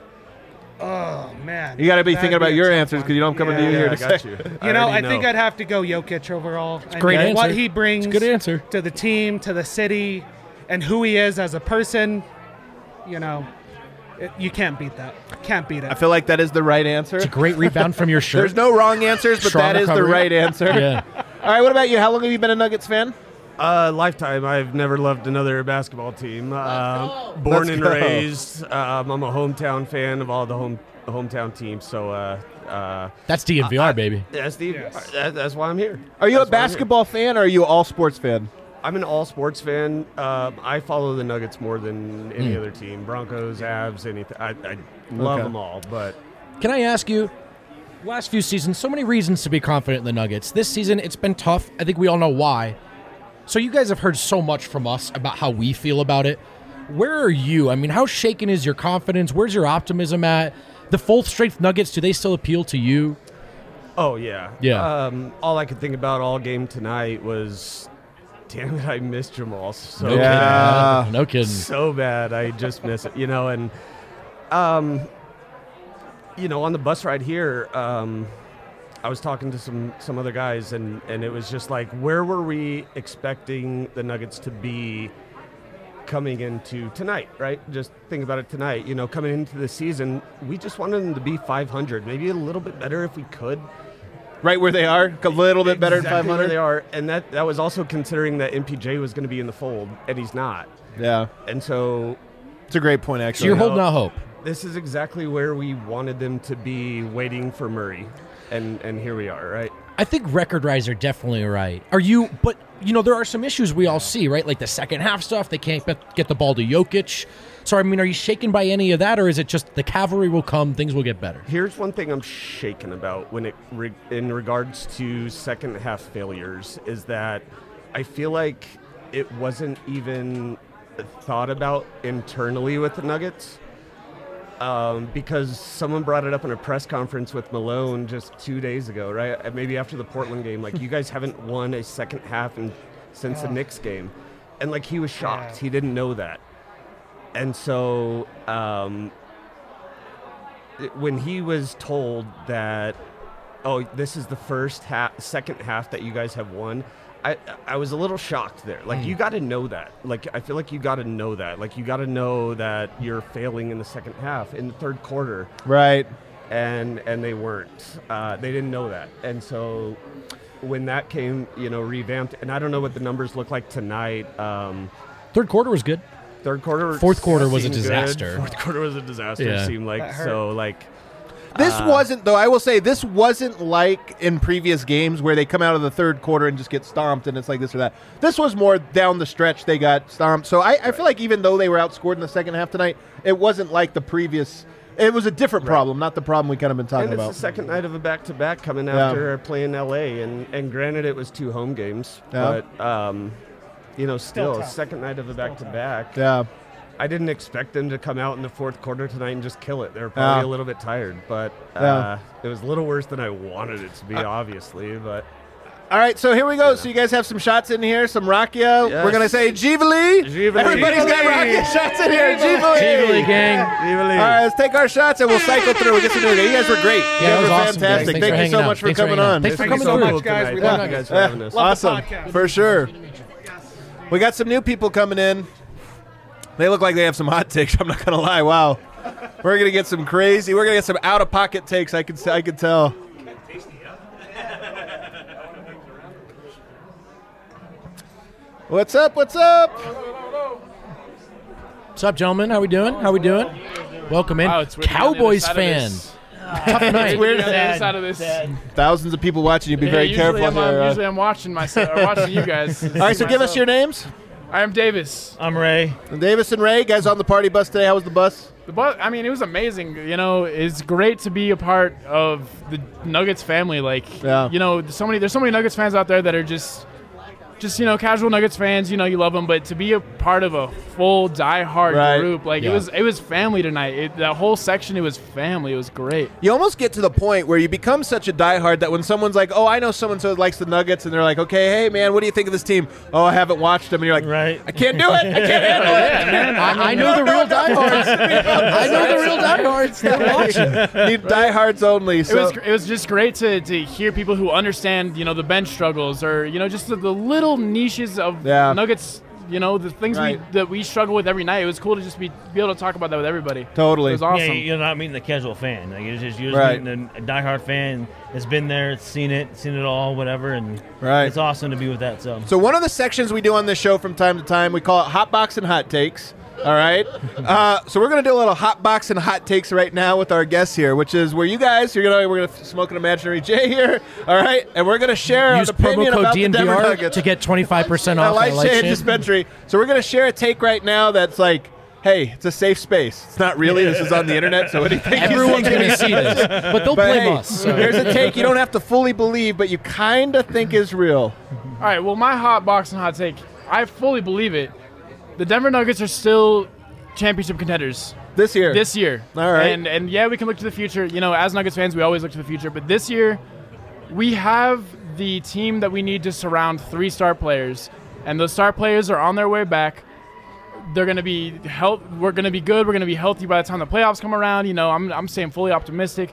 Oh man, You got to be That'd thinking about a your tough answers one. because you know I'm coming to you Yeah. here Yeah, to I got say. you. You know, I already think I'd have to go Jokic overall. It's great answer. What he brings It's a good answer. to the team, to the city, and who he is as a person. You know, it, you can't beat that. Can't beat it. I feel like that is the right answer. It's a great rebound from your shirt. There's no wrong answers, but Strong that is the recovery. right answer. Yeah. All right, what about you? How long have you been a Nuggets fan? Uh, lifetime. I've never loved another basketball team. Uh, born Let's and go. raised. Um, I'm a hometown fan of all the home hometown teams. So uh, uh, That's D N V R, baby. that's the Yes. that, that's why I'm here. Are you That's a why I'm here. basketball fan or are you an all sports fan? I'm an all sports fan. Um, I follow the Nuggets more than any Hmm. other team. Broncos, Avs, anything. I, I love Okay. them all, but Can I ask you, last few seasons, so many reasons to be confident in the Nuggets. This season, it's been tough. I think we all know why. So you guys have heard so much from us about how we feel about it. Where are you? I mean, how shaken is your confidence? Where's your optimism at? The full strength Nuggets, do they still appeal to you? oh yeah, Yeah. Um, all I could think about all game tonight was, damn it, I missed Jamal so No Yeah. kidding. No kidding. so bad. I just miss it, you know. And, um, you know, on the bus ride here, um, I was talking to some some other guys, and and it was just like, where were we expecting the Nuggets to be coming into tonight? Right? Just think about it tonight. You know, coming into the season, we just wanted them to be five hundred, maybe a little bit better if we could. Right where they are, a little bit better Exactly than where they five hundred. are, and that that was also considering that M P J was going to be in the fold, and he's not. Yeah, And so it's a great point So actually. you're know, holding out hope. this is exactly where we wanted them to be, waiting for Murray, and and here we are, right? I think record rise are definitely right. Are you? But you know, there are some issues we all see, right? Like the second half stuff. They can't get- get the ball to Jokic. So I mean, are you shaken by any of that, or is it just the cavalry will come, things will get better? Here's one thing I'm shaken about when it re- in regards to second half failures is that I feel like it wasn't even thought about internally with the Nuggets. Um, because someone brought it up in a press conference with Malone just two days ago, right? Uh, Maybe after the Portland game. Like, you guys haven't won a second half in, since the Knicks game. And, like, he was shocked. Yeah. He didn't know that. And so um, it- when he was told that, oh, this is the first half, second half that you guys have won, I I was a little shocked there. Like, you got to know that. Like, I feel like you got to know that. Like, you got to know that you're failing in the second half, in the third quarter, Right. and and they weren't. Uh, they didn't know that, and so when that came, you know, revamped, and I don't know what the numbers look like tonight. Um, Third quarter was good. third quarter, Fourth quarter was a seemed good. disaster. Fourth quarter was a disaster. Yeah. It seemed like That hurt. so like. This Uh, wasn't, though, I will say, this wasn't like in previous games where they come out of the third quarter and just get stomped and it's like this or that. This was more down the stretch they got stomped. So I, I feel like even though they were outscored in the second half tonight, it wasn't like the previous. It was a different problem, not the problem we kind of been talking And it's about. the second night of a back-to-back coming Yeah. after playing L A, and and granted it was two home games, Yeah. but um, you know, still, tough. second night of a back-to-back. Yeah. I didn't expect them to come out in the fourth quarter tonight and just kill it. They were probably Yeah. a little bit tired, but uh, Yeah. it was a little worse than I wanted it to be, obviously. But All right, so here we go. So you guys have some shots in here, some rakia. Yes. We're going to say Jivali. Jivali. Everybody's got rakia shots in here. Jivali. Jivali gang. All right, let's take our shots and we'll cycle through. We'll get some new. You guys were great. Yeah, you that guys was were awesome, guys. fantastic. Thanks Thank for you hanging so out. much for Thanks for coming hanging out. on. Thanks for Thank you coming so through. much, guys. We Thank love you it. guys for having us. Love the Awesome, podcast. for sure. We got some new people coming in. They look like they have some hot takes. I'm not gonna lie. Wow, we're gonna get some crazy. We're gonna get some out of pocket takes. I can I can tell. What's up? What's up? What's up, gentlemen? How we doing? How we doing? Welcome in. Wow, it's weird to be on the Cowboys other side of fan. this. Tough night. It's weird to be on the other side of this. Thousands of people watching you. Be Yeah, very usually careful I'm, here. uh, uh, usually I'm watching myself, or watching you guys. All right, so give us your names. I am Davis. I'm Ray. Davis and Ray, guys on the party bus today. How was the bus? The bus, I mean, it was amazing. You know, it's great to be a part of the Nuggets family. Like, Yeah. you know, so many. There's so many Nuggets fans out there that are just, just you know, casual Nuggets fans. You know, you love them, but to be a part of a full diehard Right. group, like Yeah. it was, it was family tonight. It, that whole section, it was family. It was great. You almost get to the point where you become such a diehard that when someone's like, "Oh, I know someone so likes the Nuggets," and they're like, "Okay, hey man, what do you think of this team?" "Oh, I haven't watched them," and you're like, Right. "I can't do it. I can't handle it." I, I know the real diehards. I know the real diehards. They're watching. Need diehards only. It So was gr- it was just great to, to hear people who understand, you know, the bench struggles, or you know, just the, the little niches of Yeah. Nuggets, you know, the things Right. we that we struggle with every night. It was cool to just be be able to talk about that with everybody. Totally. It was awesome. Yeah, you're not meeting the casual fan. Like you're just you're just Right. meeting a diehard fan that's been there, seen it, seen it all, whatever, and Right. it's awesome to be with that. So, So one of the sections we do on this show from time to time, we call it Hot Box and Hot Takes. All right. Uh, so we're gonna do a little hot box and hot takes right now with our guests here, which is where you guys you're gonna we're gonna smoke an imaginary J here. All right, and we're gonna share Use an opinion promo code about D the N V Denver R Nuggets. to get twenty-five percent I off. like I like Shea shit. Dispensary. So we're gonna share a take right now that's like, hey, it's a safe space. It's not really. This is on the internet, so anything. you Everyone's say- going to see this, but they'll But blame hey, us. So. here's a take you don't have to fully believe, but you kind of think is real. All right. Well, my hot box and hot take, I fully believe it. The Denver Nuggets are still championship contenders This year. this year. All right. And and yeah, we can look to the future. You know, as Nuggets fans, we always look to the future. But this year, we have the team that we need to surround three star players, and those star players are on their way back. They're going to be health. We're going to be good. We're going to be healthy by the time the playoffs come around. You know, I'm I'm staying fully optimistic.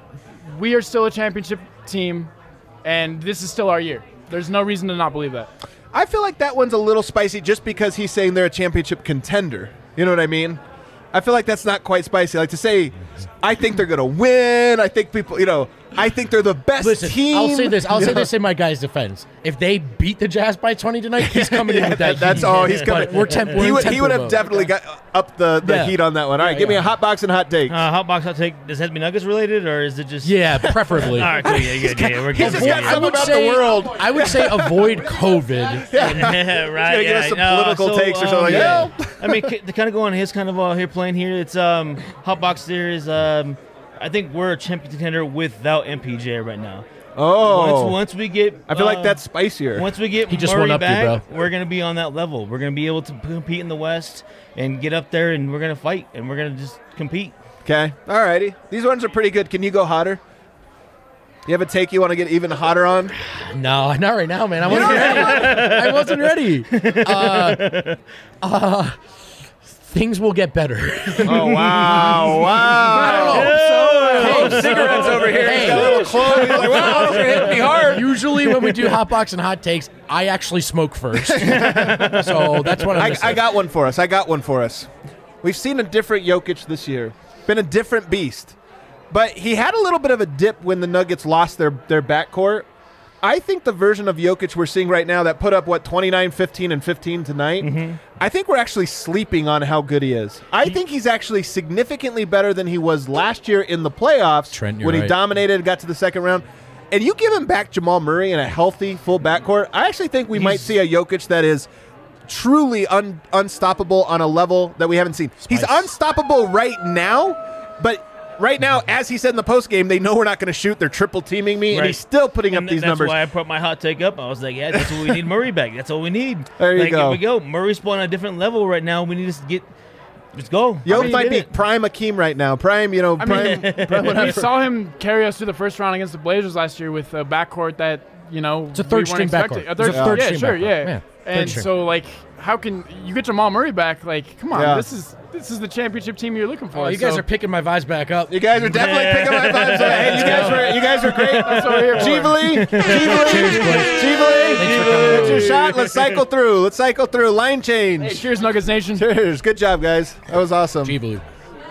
We are still a championship team, and this is still our year. There's no reason to not believe that. I feel like that one's a little spicy just because he's saying they're a championship contender. You know what I mean? I feel like that's not quite spicy. Like to say, I think they're going to win. I think people, you know, I think they're the best Listen, team. I'll say this. I'll You say know? this in my guy's defense. If they beat the Jazz by twenty tonight, he's coming in Yeah, with that. that- that's heat. all he's coming. But we're temp- we're he in would, he temper would have mode. definitely got up the, the Yeah. heat on that one. All right, Yeah, give me yeah. a hot box and hot takes. uh, hot box, hot take. Does it have to be Nuggets related, or is it just? Yeah, preferably. All right, cool. Yeah, yeah, yeah. We're He's good. just got I some would about the say, world. I would say avoid COVID. Yeah, right. gonna give yeah, us some no, political so, takes or um, something like yeah. that. I mean, c- to kind of go on his kind of uh, here playing here. It's um, hot box series. Um, I think we're a champion contender without M P J right now. Oh, Once, once we get, I feel like uh, that's spicier. Once we get He just Murray one-upped you, back, bro. we're gonna be on that level. We're gonna be able to compete in the West and get up there, and we're gonna fight, and we're gonna just compete. Okay, all righty. These ones are pretty good. Can you go hotter? You have a take you want to get even hotter on? No, not right now, man. I wasn't ready. I wasn't ready. Uh, uh, things will get better. Oh wow, wow! Clove cigarettes over here. He's got a little clove. He's like, wow, those are hitting me hard. Usually, when we do hot box and hot takes, I actually smoke first. So that's what I'm I, missing. I got one for us. I got one for us. We've seen a different Jokic this year. Been a different beast. But he had a little bit of a dip when the Nuggets lost their, their backcourt. I think the version of Jokic we're seeing right now that put up, what, twenty-nine, fifteen, and fifteen tonight, Mm-hmm. I think we're actually sleeping on how good he is. I think he's actually significantly better than he was last year in the playoffs Trent, you're when he right. dominated, got to the second round. And you give him back Jamal Murray in a healthy full backcourt, I actually think we might He's- see a Jokic that is truly un- unstoppable on a level that we haven't seen. He's Spice. unstoppable right now, but right now, as he said in the postgame, they know we're not going to shoot. They're triple teaming me, and Right. he's still putting And up th- these that's numbers. why I put my hot take up. I was like, yeah, that's what we need. Murray back. That's all we need. There you like, go. Here we go. Murray's playing on a different level right now. We need to get. Let's go. Yo I mean, might he be did it. prime Akeem right now. Prime, you know, I prime. mean, prime we whatever. saw him carry us through the first round against the Blazers last year with a backcourt that you know, It's a we third weren't string expecting. backcourt. A third, It's a third yeah, string sure, backcourt. yeah. Yeah, third And string. so, like, how can you get Jamal Murray back? Like, come on, Yeah. this is this is the championship team you're looking for. Oh, you guys So- are picking my vibes back up. You guys are definitely picking my vibes up. Hey, you guys were you guys were great. That's what we're here for. Jeevely, Jeevely, Cheers, boys. Jeevely. Thanks for coming That's on. your shot. Let's cycle through. Let's cycle through. Line change. Hey, cheers, Nuggets Nation. Cheers. Good job, guys. That was awesome. G Blue.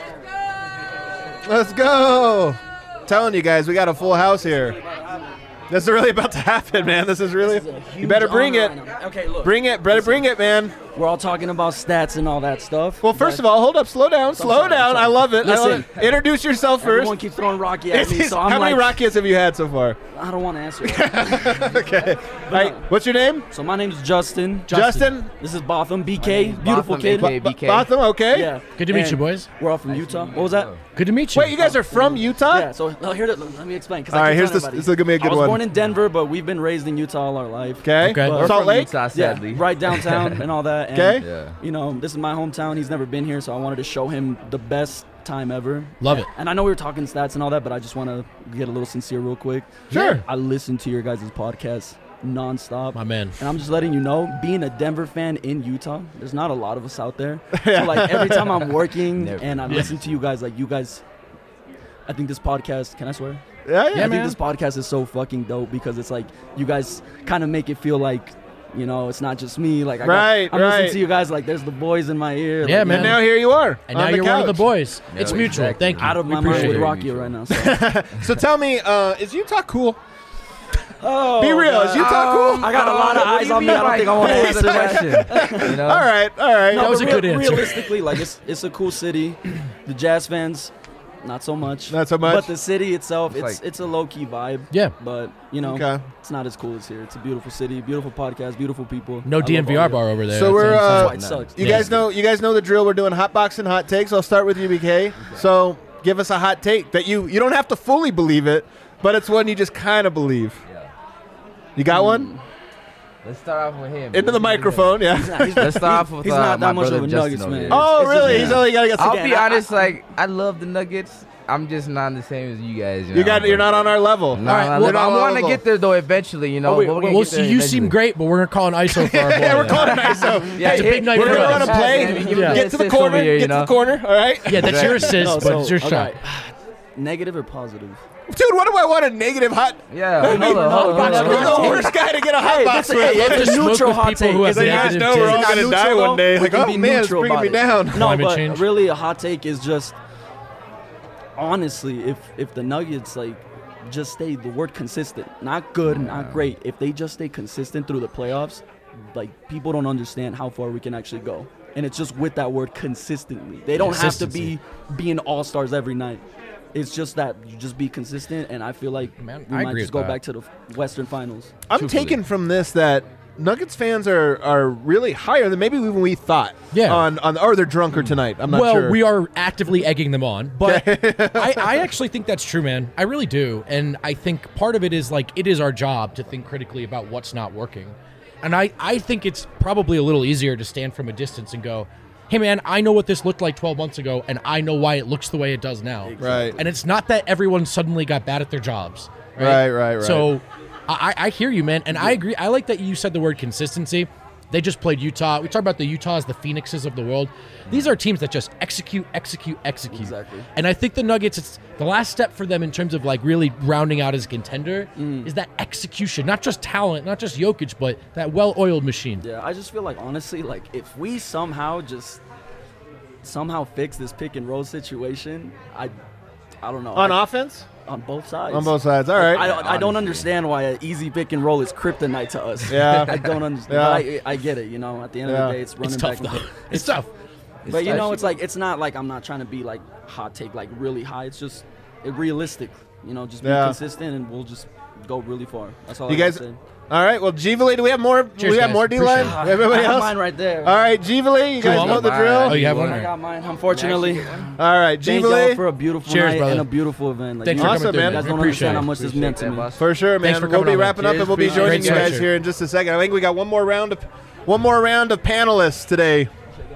Let's go. Telling you guys, we got a full house here. This is really about to happen, man. This is really. You better bring it. Okay, look. Bring it. Better bring it, man. We're all talking about stats and all that stuff. Well, first of all, hold up. Slow down. Slow sorry, down. I'm sorry. I love it. I love Listen. it. Introduce yourself first. Everyone keeps throwing Rocky at me, so I'm How like, many Rockies have you had so far? I don't want to answer that. Okay. All right. What's your name? So my name's Justin. Justin. This is Botham, B K, beautiful Botham, kid. A K A B K. Botham. Okay. Yeah. Good to meet And you, boys. We're all from Utah. What was that? Good to meet you. Wait, you guys are from Utah? Yeah. So well, here, to, let me explain. 'cause All I right, keep here's telling this- everybody. this is gonna be a good I was one. born in Denver, but we've been raised in Utah all our life. Okay. Okay. But- Salt from Lake. Utah, sadly. Yeah, right downtown and all that. And, Okay. Yeah. You know, this is my hometown. He's never been here, so I wanted to show him the best time ever. Love it. And I know we were talking stats and all that, but I just want to get a little sincere real quick. Sure. I listen to your guys' podcast nonstop. My man. And I'm just letting you know, being a Denver fan in Utah, there's not a lot of us out there. So like every time I'm working Never. and I'm listening to you guys, like you guys, I think this podcast, can I swear? Yeah, I yeah. think man. this podcast is so fucking dope because it's like you guys kind of make it feel like, you know, it's not just me. Like I got, Right, I'm right. listening to you guys like there's the boys in my ear. Yeah, like, man. And now here you are. And on now the you're one of the couch. boys. It's Yeah, mutual. exactly. Thank you. Out of We my mind appreciate with it. Rocky right now. So. So tell me, uh, is Utah cool? Oh, Be real. Is Utah cool? I got a lot of What do eyes you on me. mean I don't by think I want to cool answer is the that. question? You know? All right. All right. No, That was but a good real- answer. Realistically, like it's it's a cool city. The Jazz fans, not so much. Not so much? But the city itself, It's it's like- it's a low key vibe. Yeah. But you know, Okay. it's not as cool as here. It's a beautiful city, beautiful podcast, beautiful people. No I love D N V all R of it. bar over there. So we're, That's- uh, That's why it sucks. You Yeah. guys know. You guys know the drill. We're doing hot box and hot takes. I'll start with you, B K. So give us a hot take that you you don't have to fully believe it, but it's one you just kind of believe. You got one? Let's start off with him. Into the microphone, yeah. He's not, he's, Let's start off he's, with, he's uh, not my that much brother of a Justin Nuggets over man. here. Oh, It's just- really? yeah. He's only got to get. I'll Again, be I- honest, like I love the Nuggets. I'm just not the same as you guys. You, You know, got. You're but- not on our level. No, All right, no, we're look, not I on our want to level. get there though eventually. You know, Oh, wait, but we're gonna Well, get so there you seem eventually. great, but we're gonna call an I S O for our boy. Yeah, we're calling it I S O. Yeah, It's a big night We're for gonna us. run a play. Yeah, give me Yeah. the Get to the assist over corner. here, you Get to know? the corner. All right. Yeah, that's your assist, No, but so, it's your okay. shot. Negative or positive? Dude, what do I want a negative hot? Yeah, Hey, hold on, hold on, hold on, You're hold the on. worst guy to get a hot Hey, box that's a- with. hey, love it's to a smoke neutral with hot people take. who have It's a You guys negative know we're all takes. gonna Not die neutral, one day. though. Like, We can oh be man, it's neutral bringing me about it. down. No, Climate but change. really, a hot take is just honestly, if if the Nuggets like just stay the word consistent, not good, not great. If they just stay consistent through the playoffs, like people don't understand how far we can actually go. And it's just with that word consistently. They don't have to Consistency. be being all stars every night. It's just that you just be consistent, and I feel like Man, we I might agree just with go that. back to the Western Finals. I'm Truthfully. taking from this that Nuggets fans are, are really higher than maybe even we thought. Yeah. On on or they're drunker tonight. I'm not well, sure. we are actively egging them on, but I, I actually think that's true, man. I really do, and I think part of it is like it is our job to think critically about what's not working, and I I think it's probably a little easier to stand from a distance and go, hey man, I know what this looked like twelve months ago, and I know why it looks the way it does now. Right. And it's not that everyone suddenly got bad at their jobs. Right, right, right. So I, I hear you, man, and I agree. I like that you said the word consistency. They just played Utah. We talk about the Utahs, the Phoenixes of the world. These are teams that just execute, execute, execute. Exactly. And I think the Nuggets, it's the last step for them in terms of like really rounding out as a contender is that execution, not just talent, not just Jokic, but that well-oiled machine. Yeah, I just feel like honestly, like if we somehow just somehow fix this pick and roll situation, I, I don't know. on I- offense? on both sides. On both sides. All Like, right. I, I don't understand why an easy pick and roll is kryptonite to us. Yeah. I don't understand. Yeah. But I, I get it. You know, at the end Yeah. of the day, it's running It's tough, back and though. forth. It's tough. But you tough. know, it's like it's not like I'm not trying to be like hot take like really high. It's just it realistic. You know, just be Yeah. consistent and we'll just go really far. That's all You I gotta guys- say. All right. Well, Jeevely, do we have more? Cheers, we have guys. more D line. Appreciate Everybody I have else. mine right there. All right, Jeevely, you guys Come know on. the drill. Oh, you have one? I got mine. Unfortunately, All right, thank y'all Jeevely. for a beautiful Cheers, night brother. and a beautiful event. Like, Thanks you, for Awesome, coming through, man. you guys don't Appreciate understand it. how much this Appreciate meant to that, me. boss. For sure, man. Thanks for We'll coming be on, man. wrapping up, and Cheers, we'll be appreciate joining it. you Great guys sweatshirt. here in just a second. I think we got one more round of one more round of panelists today,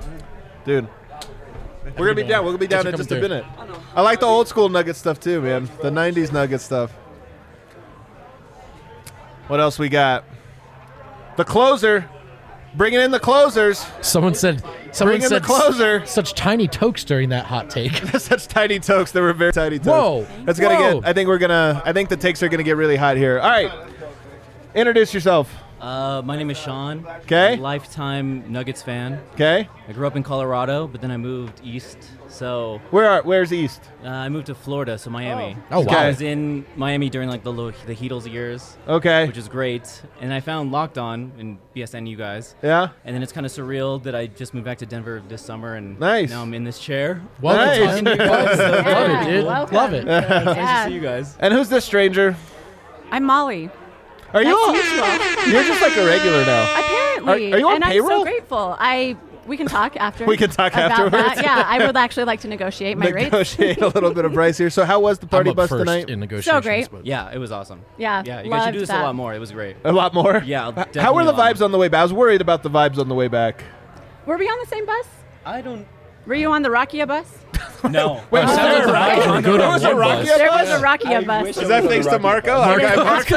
dude. We're gonna be down. We're gonna be down in Thanks just for a coming minute. I like the old school Nugget stuff too, man. The nineties Nugget stuff. What else we got? The closer. Bringing in the closers. Someone said. Someone Bring in said the closer. Such tiny tokes during that hot take. Such tiny tokes. They were very tiny tokes. Whoa. That's gonna Whoa. get. I think we're gonna. I think the takes are gonna get really hot here. All right. Introduce yourself. Uh, my name is Sean. 'Kay. Lifetime Nuggets fan. Okay. I grew up in Colorado, but then I moved east. So Where are? Where's East? uh, I moved to Florida, so Miami. Oh, So wow. I was in Miami during like the lo- the Heatles years, Okay. which is great. And I found Locked On and B S N you guys. Yeah. And then it's kind of surreal that I just moved back to Denver this summer, and Nice. now I'm in this chair. Well, Nice. talking to you guys. So Love yeah. it, dude. welcome. Love it. Nice Yeah. to see you guys. And who's this stranger? I'm Molly. Are you? Nice all- to meet you all. You're just like a regular now. Apparently. Are- are you on and payroll? I'm so grateful. I we can talk after. We can talk about afterwards. That. Yeah, I would actually like to negotiate my rates. Negotiate a little bit of price here. So, how was the party I'm up bus first tonight? in negotiations. great. but- Yeah, it was awesome. Yeah, Yeah, you guys should do loved this that. a lot more. It was great. A lot more. Yeah, I'll How were definitely the a lot vibes on the way back? I was worried about the vibes on the way back. Were we on the same bus? I don't. Were you on the Rakia bus? No. Wait, Oh, was sounds there a like Rakia- we're good there on was a one Rakia bus. There bus? was a Rakia bus. wish Is that thanks to Marco? Our guy Marco.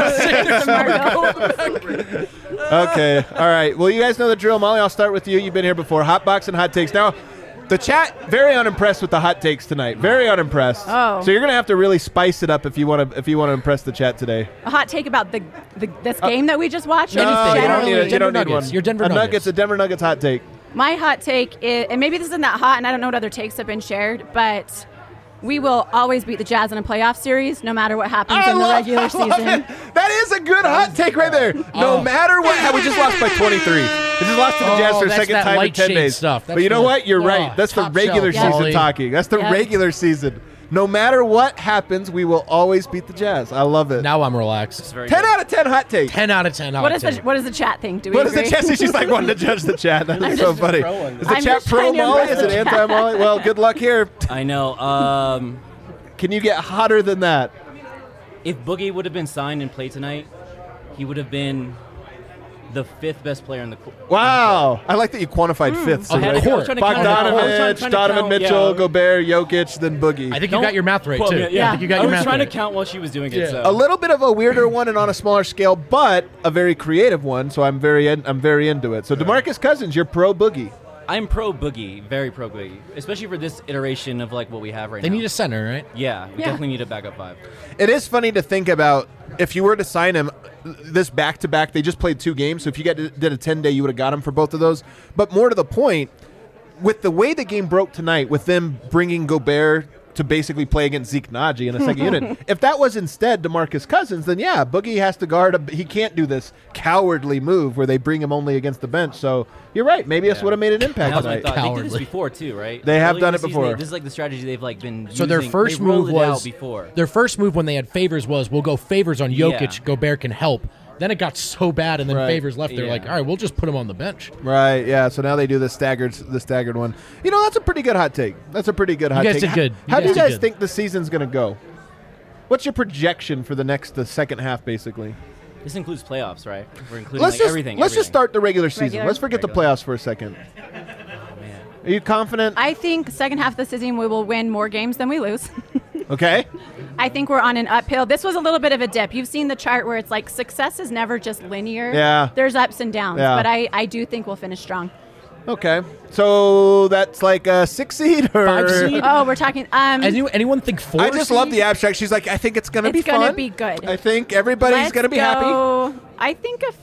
Marco. Okay. All right. Well, you guys know the drill. Molly, I'll start with you. You've been here before. Hot box and hot takes. Now, the chat very unimpressed with the hot takes tonight. Very unimpressed. Oh. So you're gonna have to really spice it up if you want to if you want to impress the chat today. A hot take about the, the this game that we just watched. or No, just you don't generally? need it. You don't need Nuggets. one. Your Denver a Nuggets. Nuggets. A Denver Nuggets hot take. My hot take is, and maybe this isn't that hot, and I don't know what other takes have been shared, but we will always beat the Jazz in a playoff series, no matter what happens I in the love- regular I love season. it. That is a good hot take right there. No Oh. matter what, how we just lost by twenty-three. We just lost to the Oh, Jazz for a that's second that time in light ten shade days. stuff. But That's you know the- what? You're oh, right. That's the top regular shelf. season Molly. talking. That's the Yep. regular season. No matter what happens, we will always beat the Jazz. I love it. Now I'm relaxed. It's very ten good. out of ten hot takes. ten out of ten. What hot is the take. what does the chat think? Do we What is the agree? chat? She's like wanting to judge the chat. That's so funny. trolling. Is the I'm chat just pro trying to Molly? impress Is it the chat. anti Molly? Well, good luck here. I know. Um, Can you get hotter than that? if Boogie would have been signed and played tonight, he would have been the fifth best player in the court. Wow. I like that you quantified Hmm. fifth. I had to- I was court. trying to count- I was trying- Bogdanovich, trying to Donovan count- Mitchell, yeah. Gobert, Jokic, then Boogie. I think you got your math right Quote too. me- yeah. I think you got I your was math trying right. to count while she was doing Yeah. it. So. a little bit of a weirder one and on a smaller scale, but a very creative one. So I'm very, in, I'm very into it. So DeMarcus Cousins, you're pro Boogie. I'm pro Boogie, very pro Boogie, especially for this iteration of like what we have right They now. need a center, right? yeah, we Yeah. definitely need a backup five. It is funny to think about if you were to sign him this back to back. They just played two games, so if you got did a ten day, you would have got him for both of those. But more to the point, with the way the game broke tonight, with them bringing Gobert to basically play against Zeke Naji in a second unit, if that was instead DeMarcus Cousins, then yeah, Boogie has to guard. A, he can't do this cowardly move where they bring him only against the bench. So you're right. Maybe this Yeah. would have made an impact That was my tonight. thought. They did Cowardly. this before too, right? They have Early done in it the season, before. they- This is like the strategy they've like been. So their using. first they rolled move it out was before. their first move when they had Favors was we'll go Favors on Jokic. Yeah. Gobert can help. Then it got so bad, and then Right. Favors left. They're Yeah. like, all right, we'll just put him on the bench. Right, yeah. So now they do the staggered, the staggered one. You know, that's a pretty good hot take. That's a pretty good hot guys take. did good. You How guys do you did guys good. think the season's going to go? What's your projection for the next, the second half, basically? This includes playoffs, right? We're including Let's like just everything. let's just everything. start the regular season. Regular. Let's forget the Regular. playoffs for a second. Man. Are you confident? I think second half of the season we will win more games than we lose. Okay. I think we're on an uphill. This was a little bit of a dip. You've seen the chart where it's like success is never just linear. Yeah. There's ups and downs, Yeah. but I, I do think we'll finish strong. Okay. So that's like a six seed or Five seed? Oh, we're talking. Um, Anyone, anyone think four? I just seed? love the abstract. She's like, I think it's going to be it's gonna fun. be good. I think everybody's Let's going to be happy. go- I think if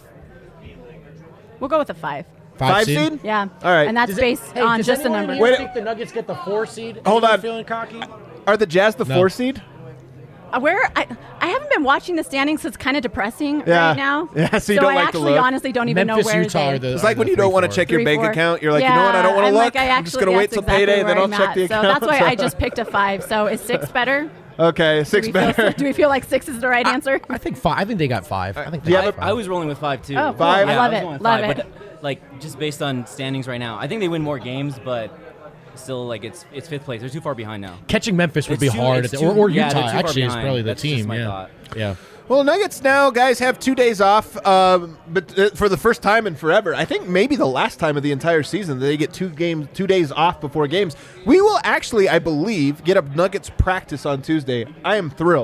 we'll go with a five. Five, Five seed? seed? Yeah. All right. And that's Does it- based hey, on does just a anyone number. in here Wait- think the Nuggets get the four seed? Hold Anyone on. Feeling cocky? Are the Jazz the No. four seed? Uh, Where I, I haven't been watching the standings, so it's kind of depressing Yeah. right now. Yeah, so you don't I like to actually look. honestly don't even Memphis, know where Utah they. are the. It's like are when the you don't three, want to four. check your Three, bank four. account. You're like, yeah, you know what? I don't want to I'm look. Like, I I'm just actually, going to wait that's till exactly payday, where then I'll I'm check at. the So account. that's why I just picked a five. So is six better? Okay, six do we feel, better. do we feel like six is the right answer? I think five. I think they got five. I think. Do you they have got I five. was rolling with five too. Oh, cool. Five? I Yeah, love was it. going with Love five, it. But like just based on standings right now, I think they win more games, but still like it's it's fifth place. They're too far behind now. Catching Memphis would It's be too- hard, it's at the- or, too- or yeah, Utah they're too far actually is behind. probably the That's just team. my yeah, thought. yeah. Well, Nuggets now, guys, have two days off, um, but uh, for the first time in forever. I think maybe the last time of the entire season that they get two games, two days off before games. We will actually, I believe, get a Nuggets practice on Tuesday. I am thrilled.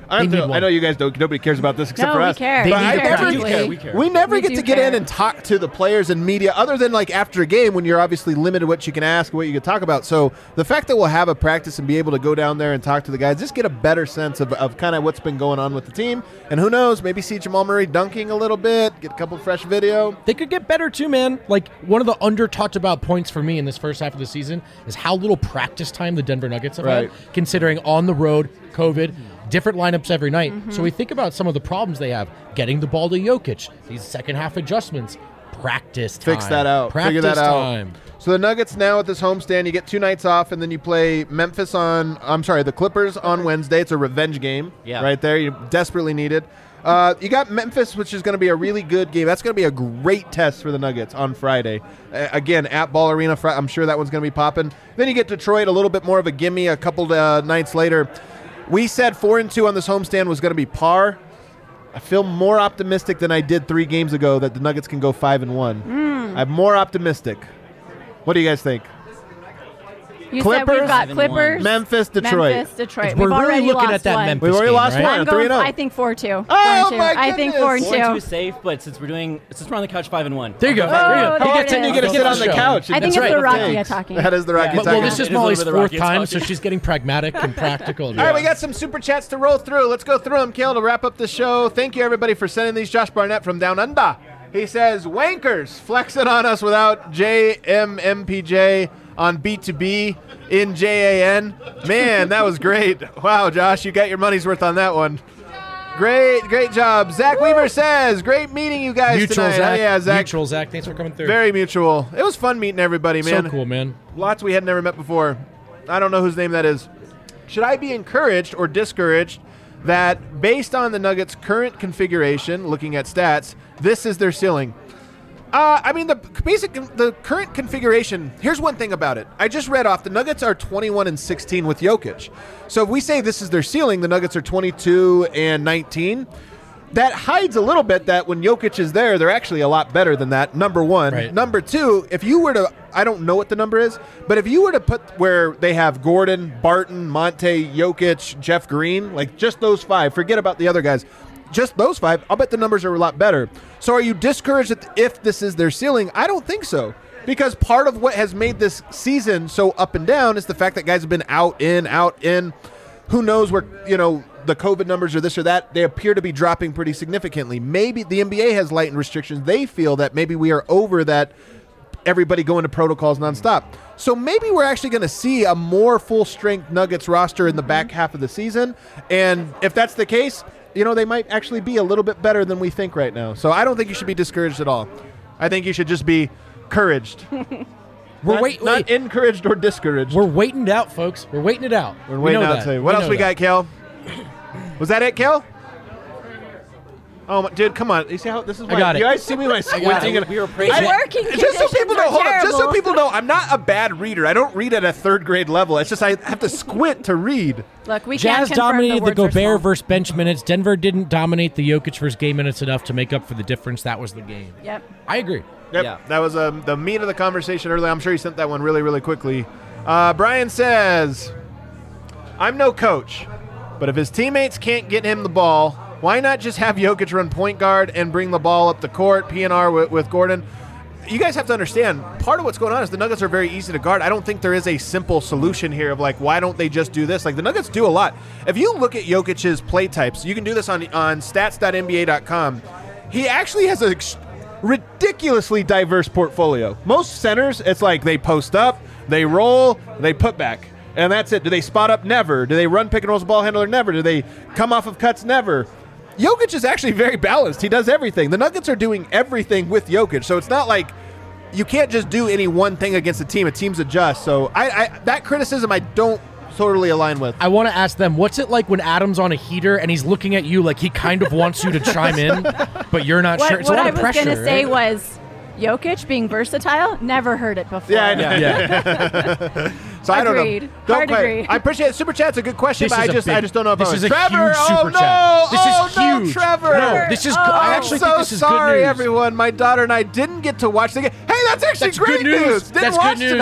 I, They don't need know, one. I know you guys don't. Nobody cares about this except No, for we us. care. They But need I to never, practice. We care, we care. We never We get do to get in care. and talk to the players and media, other than like after a game when you're obviously limited what you can ask, what you can talk about. So the fact that we'll have a practice and be able to go down there and talk to the guys, just get a better sense of, of kind of what's been going on with the team. And who knows, maybe see Jamal Murray dunking a little bit, get a couple fresh video. They could get better too, man. Like one of the under talked about points for me in this first half of the season is how little practice time the Denver Nuggets have Right. had, considering on the road, COVID, different lineups every night. So we think about some of the problems they have getting the ball to Jokic, these second half adjustments, practice time. Fix that out. Practice Figure that out. time. So the Nuggets now at this homestand, you get two nights off, and then you play Memphis on. I'm sorry, the Clippers on Wednesday. It's a revenge game, Yeah. right there. You desperately need it. Uh, you got Memphis, which is going to be a really good game. That's going to be a great test for the Nuggets on Friday. Uh, again, at Ball Arena, Fri- I'm sure that one's going to be popping. Then you get Detroit, a little bit more of a gimme a couple uh, nights later. We said four and two on this homestand was going to be par. I feel more optimistic than I did three games ago that the Nuggets can go five and one. I'm more optimistic. What do you guys think? You Clippers, said we've got Clippers, Memphis, Detroit. Memphis, Detroit. We're We've really already looking lost at that one. Memphis We've already game, lost right? one. I'm three going. and oh. I think four two. Oh, four and two. my I think goodness. four and Four and two two. is safe, but since we're doing, since we're on the couch, five and one. There you go. Oh, There you go. there He it gets is. in, you You get get to sit on the show. couch. I think That's it's right. the Rocky Thanks. talking. That is the Rocky Well, talking. well, this is It is a Molly's little bit of fourth Rocky time, talking. so she's getting pragmatic and practical. All right, we got some super chats to roll through. Let's go through them, Kale, to wrap up the show. Thank you, everybody, for sending these. Josh Barnett from Down Under. He says, wankers flexing on us without J M M P J on B two B in J A N. Man, that was great. Wow, Josh, you got your money's worth on that one. Great, great job. Zach Weaver says, great meeting you guys Mutual, tonight. Zach. Oh, yeah, Zach. Mutual, Zach. Thanks for coming through. Very mutual. It was fun meeting everybody, man. So cool, man. Lots we had never met before. I don't know whose name that is. Should I be encouraged or discouraged that based on the Nuggets' current configuration, looking at stats, this is their ceiling? Uh, I mean, the basic, the current configuration. Here's one thing about it. I just read off the Nuggets are twenty-one and sixteen with Jokic. So if we say this is their ceiling, the Nuggets are twenty-two and nineteen. That hides a little bit that when Jokic is there, they're actually a lot better than that. Number one. Right. Number two, if you were to, I don't know what the number is, but if you were to put where they have Gordon, Barton, Monte, Jokic, Jeff Green, like just those five, forget about the other guys. Just those five, I'll bet the numbers are a lot better. So are you discouraged if this is their ceiling? I don't think so. Because part of what has made this season so up and down is the fact that guys have been out, in, out, in. Who knows where, you know, the COVID numbers or this or that, they appear to be dropping pretty significantly. Maybe the N B A has lightened restrictions. They feel that maybe we are over that, everybody going to protocols nonstop. So maybe we're actually going to see a more full-strength Nuggets roster in the back half of the season. And if that's the case, you know, they might actually be a little bit better than we think right now. So I don't think you should be discouraged at all. I think you should just be encouraged. We're not, wait, not wait. encouraged or discouraged. We're waiting it out, folks. We're waiting it out. We're We waiting know out that. to you. What We else know we that. got, Kel? Was that it, Kel? Oh, my, dude, come on! You see how this is? I Why, got you it. guys see me when I squinting? it. and- We were praising I- it. Working Just so people conditions know, are hold on. Just so terrible. people know, I'm not a bad reader. I don't read at a third grade level. It's just I have to squint to read. Look, we Jazz can't confirm dominated the, the, words are small. Gobert versus bench minutes. Denver didn't dominate the Jokic versus game minutes enough to make up for the difference. That was the game. Yep. I agree. Yep, Yeah. that was um, the meat of the conversation earlier. I'm sure you sent that one really, really quickly. Uh, Brian says, I'm no coach, but if his teammates can't get him the ball, why not just have Jokic run point guard and bring the ball up the court, P N R with, with Gordon? You guys have to understand, part of what's going on is the Nuggets are very easy to guard. I don't think there is a simple solution here of like, why don't they just do this? Like, the Nuggets do a lot. If you look at Jokic's play types, you can do this on, on stats dot N B A dot com. He actually has a ridiculously diverse portfolio. Most centers, it's like they post up, they roll, they put back, and that's it. Do they spot up? Never. Do they run pick and rolls ball handler? Never. Do they come off of cuts? Never. Jokic is actually very balanced. He does everything. The Nuggets are doing everything with Jokic, so it's not like you can't just do any one thing against a team. A team's adjust. So I, I that criticism I don't totally align with. I want to ask them, what's it like when Adam's on a heater and he's looking at you like he kind of wants you to chime in, but you're not What, sure? It's what a lot I of was pressure. going to say right? was Jokic being versatile. Never heard it before. Yeah, I know. Yeah. So I don't know. Agreed. Don't Hard quite- agree. I appreciate it. Super Chat's a good question, This but I is a just big- I just don't know if this I is was a Trevor. huge oh super no! chat. This is oh no, huge. Trevor! No, this is- Oh, I actually so think this is good sorry, news. everyone. My daughter and I didn't get to watch the game. Hey, that's actually That's great good news. Didn't That's good watch news. tonight.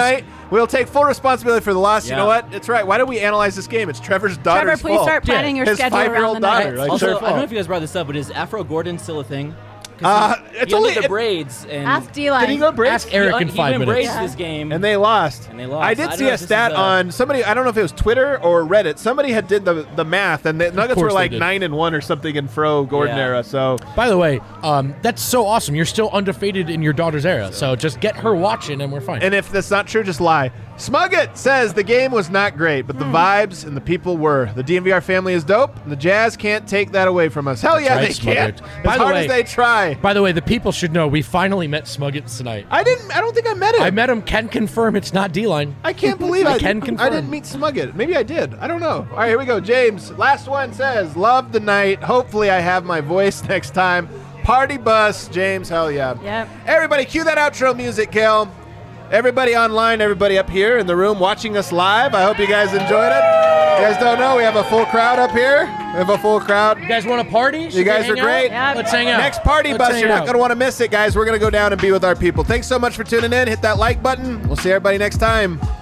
We'll take full responsibility for the loss. Yeah. You know what? It's right. Why don't we analyze this game? It's Trevor's daughter's Trevor, please fault. start planning your His schedule around five-year-old the daughter. Nuggets. Like, Also, their I don't know fault. if you guys brought this up, but is Afro Gordon still a thing? 'Cause Uh, he, it's he only ended the it- braids. And Ask D-Line. Did he go braids? Ask Eric he, in he five went minutes. braids Yeah. this game. And they lost. And they lost. I I did don't see know a if this stat is a- on somebody. I don't know if it was Twitter or Reddit. Somebody had did the the math, and the Nuggets course were they like did. nine and one or something in Fro Gordon Yeah. era. So By the way, um, that's so awesome. You're still undefeated in your daughter's era, so just get her watching, and we're fine. And if that's not true, just lie. Smugget says the game was not great, but the vibes and the people were. The D N V R family is dope, and the Jazz can't take that away from us. Hell That's yeah, right, they can't. Smugget. As By the hard way- as they try. By the way, the people should know we finally met Smuggets tonight. I didn't. I don't think I met him. I met him. Can confirm it's not D-Line. I can't believe I, I can confirm. I didn't meet Smugget. Maybe I did. I don't know. All right, here we go. James, last one says, love the night. Hopefully I have my voice next time. Party bus, James. Hell yeah. Yep. Everybody, cue that outro music, Kel. Everybody online, everybody up here in the room watching us live. I hope you guys enjoyed it. You guys don't know, we have a full crowd up here. We have a full crowd. You guys want to party? Should You guys we are hang great. out? Let's hang out. Next party Let's bus, hang you're not out. going to want to miss it, guys. We're going to go down and be with our people. Thanks so much for tuning in. Hit that like button. We'll see everybody next time.